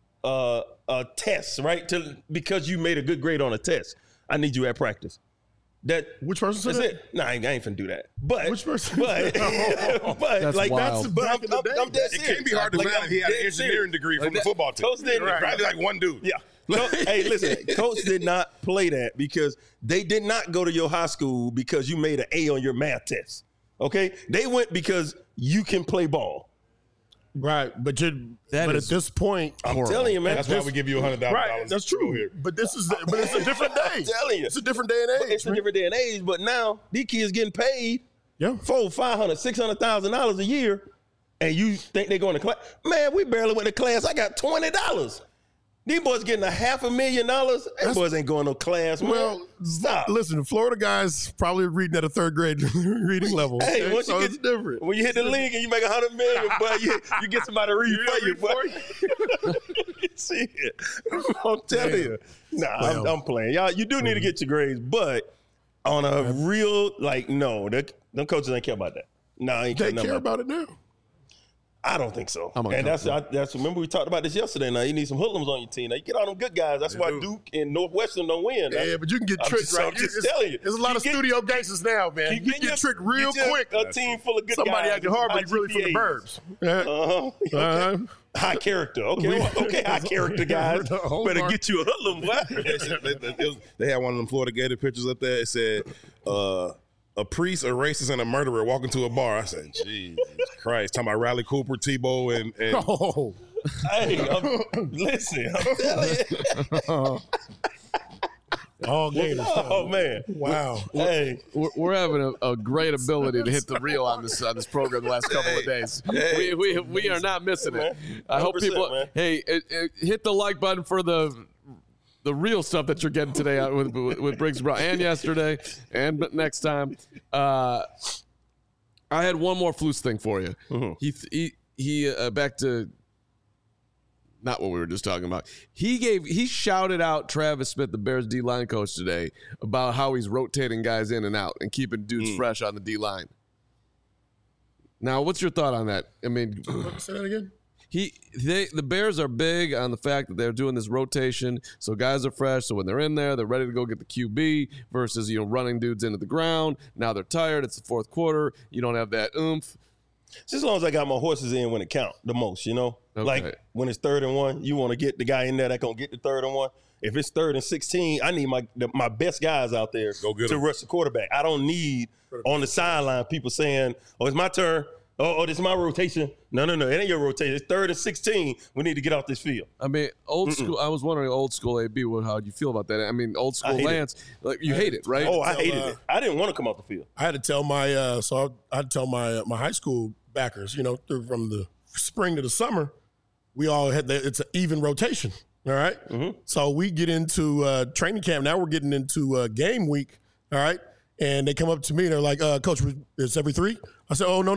a test, right? Because you made a good grade on a test. I need you at practice. Which person said That's that? it. Nah, I ain't finna do that. But Which person? But, but That's like wild. that's. But I'm dead It serious. can't be hard to Like, find if he had an dead engineering serious. degree from the football team. Coach didn't. Probably like one dude. Yeah. Hey, listen, Coach did not play that because they did not go to your high school because you made an A on your math test. Okay? They went because you can play ball. Right, but at this point, I'm telling you, man. That's why we give you $100,000. right, that's true. Here. But it's a different day. I'm telling you. It's a different day and age. It's a different day and age, but now these kids getting paid Yeah. $400,000, $600,000 a year, and you think they're going to class? Man, we barely went to class. I got $20. These boys getting $500,000. These boys ain't going to class, man. Well, Stop. Listen, Florida guys probably reading at a third grade reading level. Hey, okay? once So you it's get different. when you hit the league and you make $100 million, boy, you get somebody to read for you, boy. Shit. I'm telling you. Nah, Well. I'm playing. Y'all, you do need to get your grades, but on a real, like, no, them coaches ain't care about that. No, I ain't They care care about about it now. I don't think so. I'm And that's remember we talked about this yesterday. Now you need some hoodlums on your team. Now you get all them good guys. That's why Duke and Northwestern don't win. Yeah, but you can get tricked, right? I'm just telling you. There's a lot of studio gangsters now, man. You can get tricked real quick. A team full of good Somebody guys. acting hard, but he's really from the burbs. Okay. High character. Okay, high character guys. Better get you a hoodlum. They had one of them Florida Gator pictures up there. It said, a priest, a racist, and a murderer walk into a bar. I said, Jesus Christ. Talking about Riley Cooper, Tebow, and Oh, Hey, listen, I'm telling you. all gators. Oh, man. Wow. Hey. We're having a great ability to hit the reel on this program the last couple of days. We are not missing it. I hope people. Man. Hey, hit the like button for the real stuff that you're getting today out with Briggs Brown and yesterday and next time. I had one more Flus thing for you. Mm-hmm. He back to not what we were just talking about. He shouted out Travis Smith, the Bears D-line coach, today about how he's rotating guys in and out and keeping dudes fresh on the D-line. Now, what's your thought on that? I mean, Say that again. The Bears are big on the fact that they're doing this rotation, so guys are fresh. So when they're in there, they're ready to go get the QB versus running dudes into the ground. Now they're tired. It's the fourth quarter. You don't have that oomph. Just as long as I got my horses in when it count the most, Okay. Like when it's 3rd and 1, you want to get the guy in there that gonna get the 3rd and 1. If it's 3rd and 16, I need my best guys out there to rush the quarterback. I don't need on the sideline people saying, "Oh, it's my turn." Oh, this is my rotation. No. It ain't your rotation. It's 3rd and 16. We need to get off this field. I mean, old school. I was wondering, old school AB, how do you feel about that? I mean, old school Lance, you hate it, right? Oh, I hated it. I didn't want to come off the field. I had to tell my my high school backers, from the spring to the summer, we all had it's an even rotation. All right. Mm-hmm. So we get into training camp. Now we're getting into game week. All right. And they come up to me and they're like, Coach, it's every 3? I said, oh, no.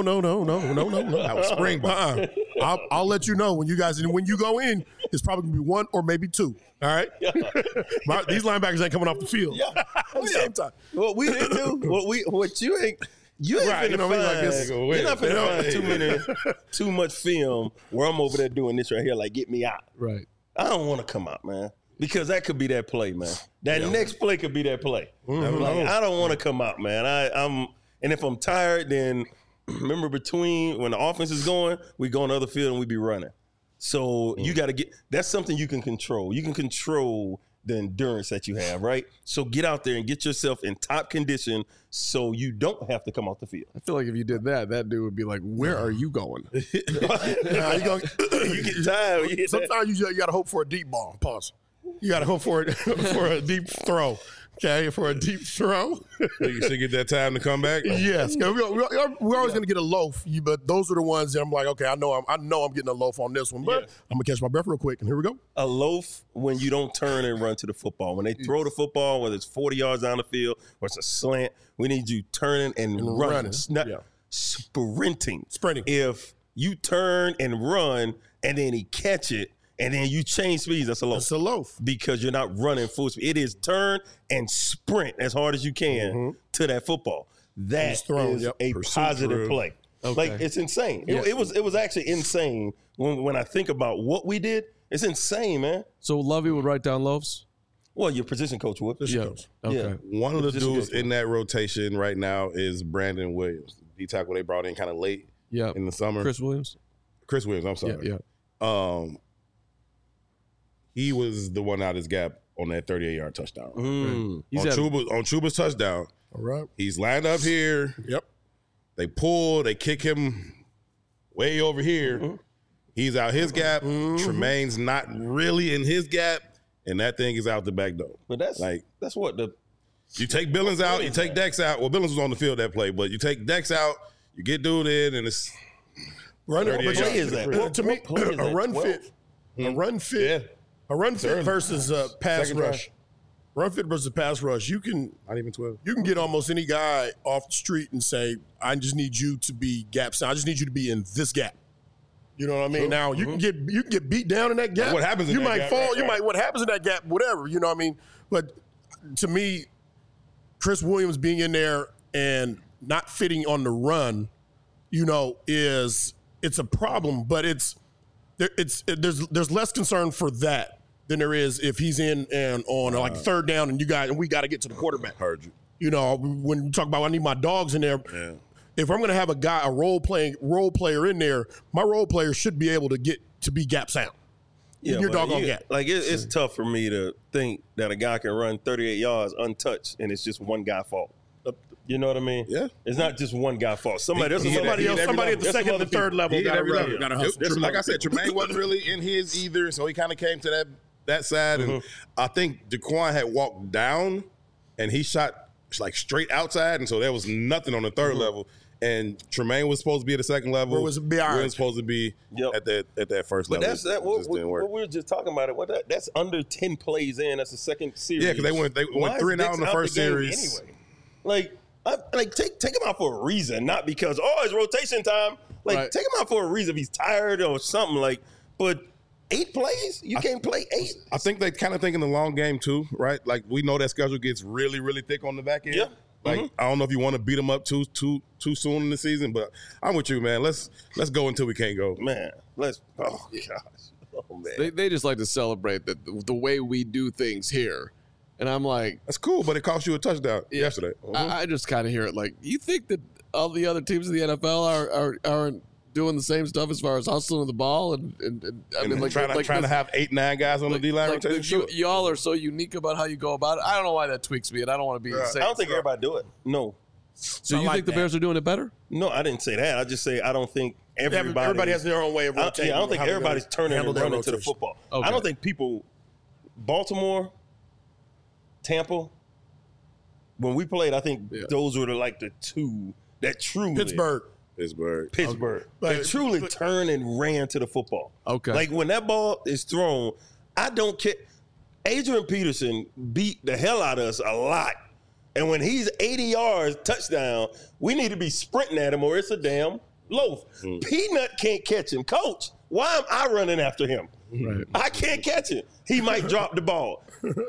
That was spring ball. I'll let you know when you go in, it's probably going to be 1 or maybe 2. All right? Yeah. These linebackers ain't coming off the field at the same time. What we didn't do, what you ain't Right, finna find, like this. you're not finna find too much film where I'm over there doing this right here, like, get me out. Right. I don't want to come out, man. Because that could be that play, man. That next play could be that play. Mm-hmm. Like, I don't want to come out, man. And if I'm tired, then remember between when the offense is going, we go on the other field and we be running. So you got to that's something you can control. You can control the endurance that you have, right? So get out there and get yourself in top condition so you don't have to come off the field. I feel like if you did that dude would be like, where are you going? You get tired. Sometimes you got to hope for a deep ball. Pause. You got to hope for it for a deep throw. Okay, for a deep throw. You should get that time to come back. Yes, we're always going to get a loaf, but those are the ones that I'm like, okay, I know I'm getting a loaf on this one, but I'm gonna catch my breath real quick, and here we go. A loaf when you don't turn and run to the football. When they throw the football, whether it's 40 yards down the field or it's a slant, we need you turning and running, not sprinting. If you turn and run and then he catch it, and then you change speeds, that's a loaf. It's a loaf. Because you're not running full speed. It is turn and sprint as hard as you can to that football. That is a positive play. Okay. Like, it's insane. Yeah. It was actually insane when I think about what we did. It's insane, man. So Lovey would write down loaves? Well, your position coach would. Coach. Okay. Yeah. One of the dudes in that rotation right now is Brandon Williams. The D-tackle they brought in kind of late in the summer. Chris Williams, I'm sorry. Yeah. He was the one out his gap on that 38-yard touchdown. Mm. On Chuba's touchdown. All right. He's lined up here. Yep. They pull. They kick him way over here. Mm-hmm. He's out his gap. Mm-hmm. Tremaine's not really in his gap, and that thing is out the back door. But that's what you take Billings out, you take Dex out. Well, Billings was on the field that play, but you take Dex out, you get dude in, and it's what play is that? To me, a run fit. A run fit. Yeah. A run fit versus pass Second rush. Run fit versus pass rush. You can not even 12. You can get almost any guy off the street and say, "I just need you to be gap. I just need you to be in this gap." You know what I mean? True. Now you can get beat down in that gap. What happens? You might fall. You might. What happens in that gap? Whatever. You know what I mean? But to me, Chris Williams being in there and not fitting on the run, is it's a problem, but there's less concern for that than there is if he's in and on like third down and we got to get to the quarterback. Heard you. You know, when you talk about I need my dogs in there. Yeah. If I'm going to have a role player in there, my role player should be able to get to be gap sound. Yeah, your doggone gap. Like it's tough for me to think that a guy can run 38 yards untouched and it's just one guy's fault. You know what I mean? Yeah. It's not just one guy fault. Somebody at the second and third level got to hustle. Like I said, Tremaine wasn't really in his either, so he kind of came to that side. And I think Daquan had walked down and he shot like straight outside, and so there was nothing on the third level. And Tremaine was supposed to be at the second level. Where was it behind? We were supposed to be at that first level. But what we were just talking about it. That's under 10 plays in. That's the second series. Yeah, because they went 3 and out in the first series. Anyway, take him out for a reason, not because it's rotation time. Take him out for a reason if he's tired or something. But 8 plays, you can't play 8. I think they kind of think in the long game too, right? Like we know that schedule gets really, really thick on the back end. Yeah. I don't know if you want to beat them up too soon in the season, but I'm with you, man. Let's go until we can't go. Man, oh gosh. Oh, man. They just like to celebrate the way we do things here. And I'm like, that's cool, but it cost you a touchdown yesterday. I just kind of hear it like, you think that all the other teams in the NFL aren't doing the same stuff as far as hustling the ball and I mean, trying to have 8-9 guys on the D-line rotation. Y'all are so unique about how you go about it. I don't know why that tweaks me, and I don't want to be insane. I don't think everybody do it. No. So you think the Bears are doing it better? No, I didn't say that. I just say I don't think everybody has their own way of rotating. I don't think everybody's turning and running to the football. Okay. I don't think people, Baltimore, Tampa, when we played, I think those were the two that truly Pittsburgh. They truly turned and ran to the football. Okay. Like when that ball is thrown, I don't care. Adrian Peterson beat the hell out of us a lot. And when he's 80 yards touchdown, we need to be sprinting at him or it's a damn loaf. Peanut can't catch him. Coach, why am I running after him? Right. I can't catch him. He might drop the ball.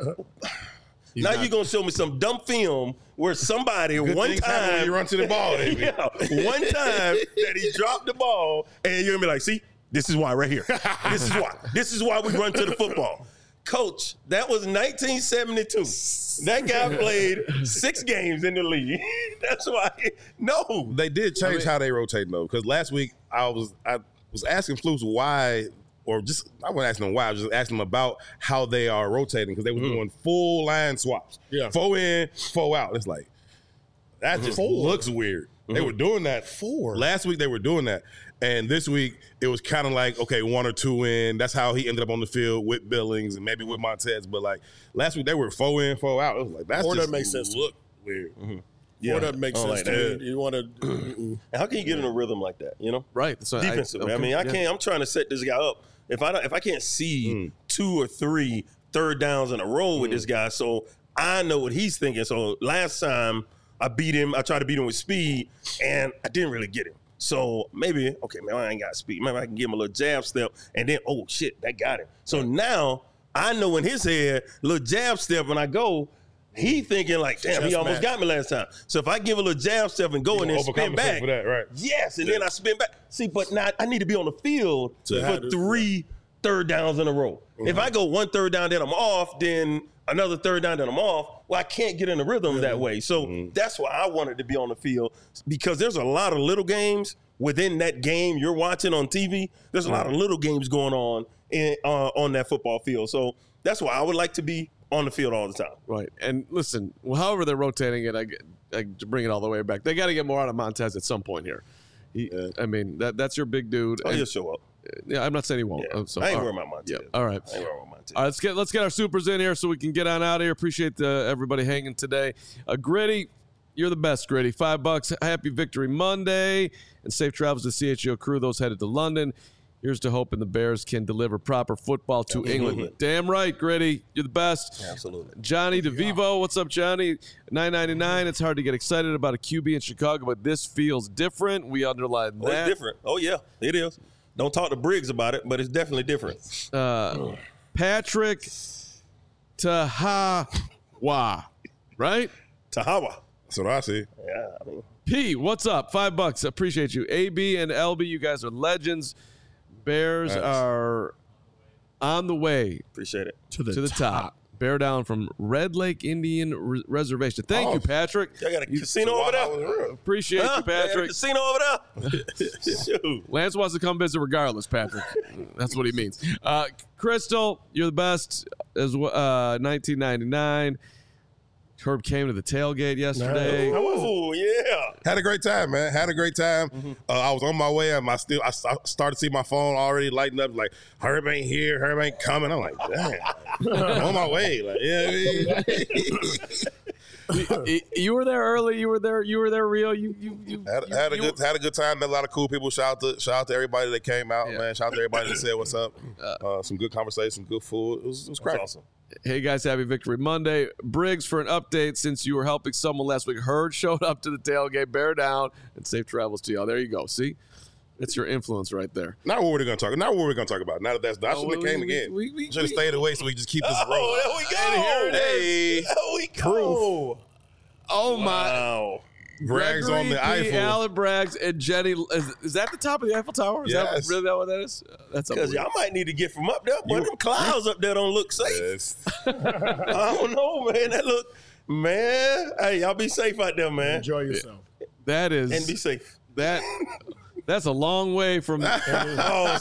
Now you're going to show me some dumb film where somebody one time when you run to the ball, baby. One time that he dropped the ball and you're going to be like, see, this is why right here. This is why. This is why we run to the football. Coach, that was 1972. That guy played 6 games in the league. That's why. No. They did change how they rotate, though, because last week I was asking Flus why, or just I wasn't asking them why. I was just asking them about how they are rotating because they were doing full line swaps. Yeah. 4 in, 4 out. It's like that just looks weird. They were doing that 4. Last week they were doing that. And this week, it was kind of like, okay, 1 or 2 in. That's how he ended up on the field with Billings and maybe with Montez. But, like, last week, they were 4 in, 4 out. It was like, that's just makes sense. Look weird. Yeah. That makes sense like to that. me. You want to How can you get in a rhythm like that, you know? Right. So Defensively. I mean, I can't. I'm trying to set this guy up. If I can't see 2 or 3 third downs in a row with this guy, so I know what he's thinking. So last time I beat him, I tried to beat him with speed, and I didn't really get him. So maybe, okay, man, I ain't got speed. Maybe I can give him a little jab step, and then, oh, shit, that got him. So now I know in his head, little jab step, when I go, he thinking like, damn, he almost got me last time. So if I give a little jab step and go and then spin back, for that, right? yes, and then I spin back. See, but now I need to be on the field for 3 third downs in a row. If I go 1 third down, then I'm off, then another third down, then I'm off, well, I can't get in the rhythm that way. So that's why I wanted to be on the field, because there's a lot of little games within that game you're watching on TV. There's a lot of little games going on that football field. So that's why I would like to be on the field all the time. Right. And listen, however they're rotating it, I to bring it all the way back. They got to get more out of Montez at some point here. I mean, that's your big dude. Oh, he'll show up. Yeah, I'm not saying he won't. Yeah. So, I ain't worried about Montez. Yeah. All right. I ain't worried about Montez. All right, let's get our supers in here so we can get on out of here. Appreciate everybody hanging today. Gritty, you're the best, Gritty. $5. Happy Victory Monday and safe travels to CHGO crew. Those headed to London. Here's to hoping the Bears can deliver proper football to England. Damn right, Gritty. You're the best. Absolutely. Johnny DeVivo, what's up, Johnny? $9.99. It's hard to get excited about a QB in Chicago, but this feels different. We underline that. Oh, it's different. Oh, yeah, it is. Don't talk to Briggs about it, but it's definitely different. Patrick Tahawa, right? Tahawa. That's what I see. Yeah, I mean, P, what's up? $5. Appreciate you. AB and LB, you guys are legends. Bears are on the way. Appreciate it. To the top. Bear down from Red Lake Indian Reservation. Thank you, Patrick. I got a casino over there. Appreciate you, Patrick. Casino over there. Shoot. Lance wants to come visit regardless, Patrick. That's what he means. Crystal, you're the best. As 1999. Herb came to the tailgate yesterday. Oh, yeah. Had a great time, man. Had a great time. I was on my way, and I started to see my phone already lighting up. Like, Herb ain't here. Herb ain't coming. I'm like, damn. I'm on my way. Like, yeah. You were there early. You were there real. You had a good time. Met a lot of cool people. Shout out to everybody that came out, man. Shout out to everybody that said what's up. Some good conversation, good food. It was cracking. Awesome. Hey guys, happy Victory Monday. Briggs, for an update, since you were helping someone last week, Hurd showed up to the tailgate, bear down, and safe travels to y'all. There you go. See? It's your influence right there. Not what we're gonna talk about. Now that that's I shouldn't have came again. We should have stayed away so we just keep this rolling. Oh, there we go. Hey, there we go. Oh my! Wow. Bragg's on the Eiffel. Alan Braggs and Jenny. Is that the top of the Eiffel Tower? Is that really what that is? That's because y'all might need to get from up there, but them clouds up there don't look safe. Yes. I don't know, man. That look, man. Hey, y'all be safe out there, man. Enjoy yourself. That is, and be safe. That's a long way from. Oh,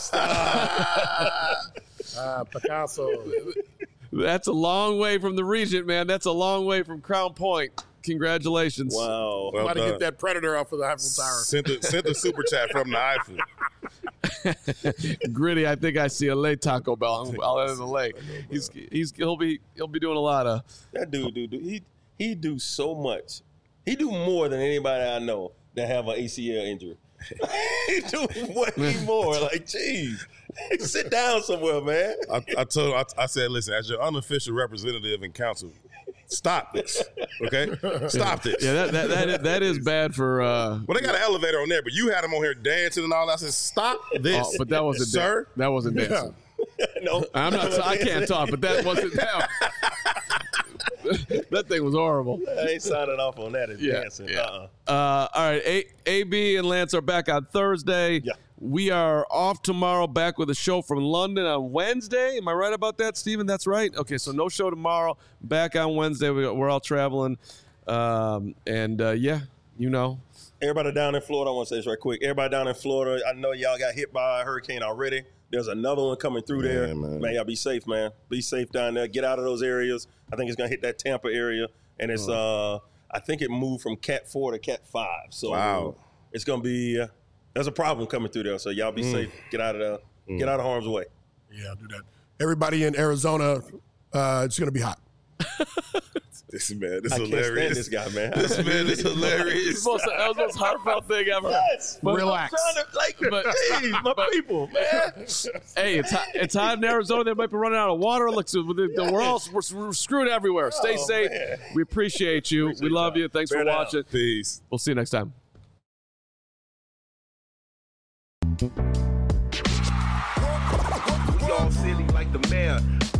stop. Picasso. That's a long way from the Regent, man. That's a long way from Crown Point. Congratulations. Wow. Well Somebody get that Predator off of the Eiffel Tower. Sent the super chat from the Eiffel. Gritty, I think I see a late Taco Bell. I'll enter the lake. He'll be doing a lot of. That dude. He do so much. He do more than anybody I know that have an ACL injury. He do way more. Like, geez, sit down somewhere, man. I said, listen, as your unofficial representative and counsel, stop this, okay? Stop this. Yeah, that is bad for. Well, they got an elevator on there, but you had them on here dancing and all that. I said, stop this. Oh, but that wasn't sir. That wasn't dancing. No, I'm not. I can't talk, but that wasn't that. That thing was horrible. I ain't signing off on that. It's dancing. Yeah. All right. AB and Lance are back on Thursday. Yeah. We are off tomorrow, back with a show from London on Wednesday. Am I right about that, Steven? That's right. Okay, so no show tomorrow. Back on Wednesday. We're all traveling. Yeah, you know. Everybody down in Florida, I want to say this right quick. Everybody down in Florida, I know y'all got hit by a hurricane already. There's another one coming through there. Man, y'all be safe, man. Be safe down there. Get out of those areas. I think it's going to hit that Tampa area. And it's, I think it moved from Cat 4 to Cat 5. So wow. It's going to be, there's a problem coming through there. So y'all be safe. Get out of there. Get out of harm's way. Yeah, do that. Everybody in Arizona, it's going to be hot. This man, this I is can't hilarious. stand this guy, man. This man is hilarious. That was the most heartfelt thing ever. Yes. But, Relax. My people, man. Hey, it's hot in Arizona. They might be running out of water. Look, so we're screwed everywhere. Stay safe. Man. We appreciate you. We love you. Thanks for watching. Peace. We'll see you next time. We all silly like the mayor.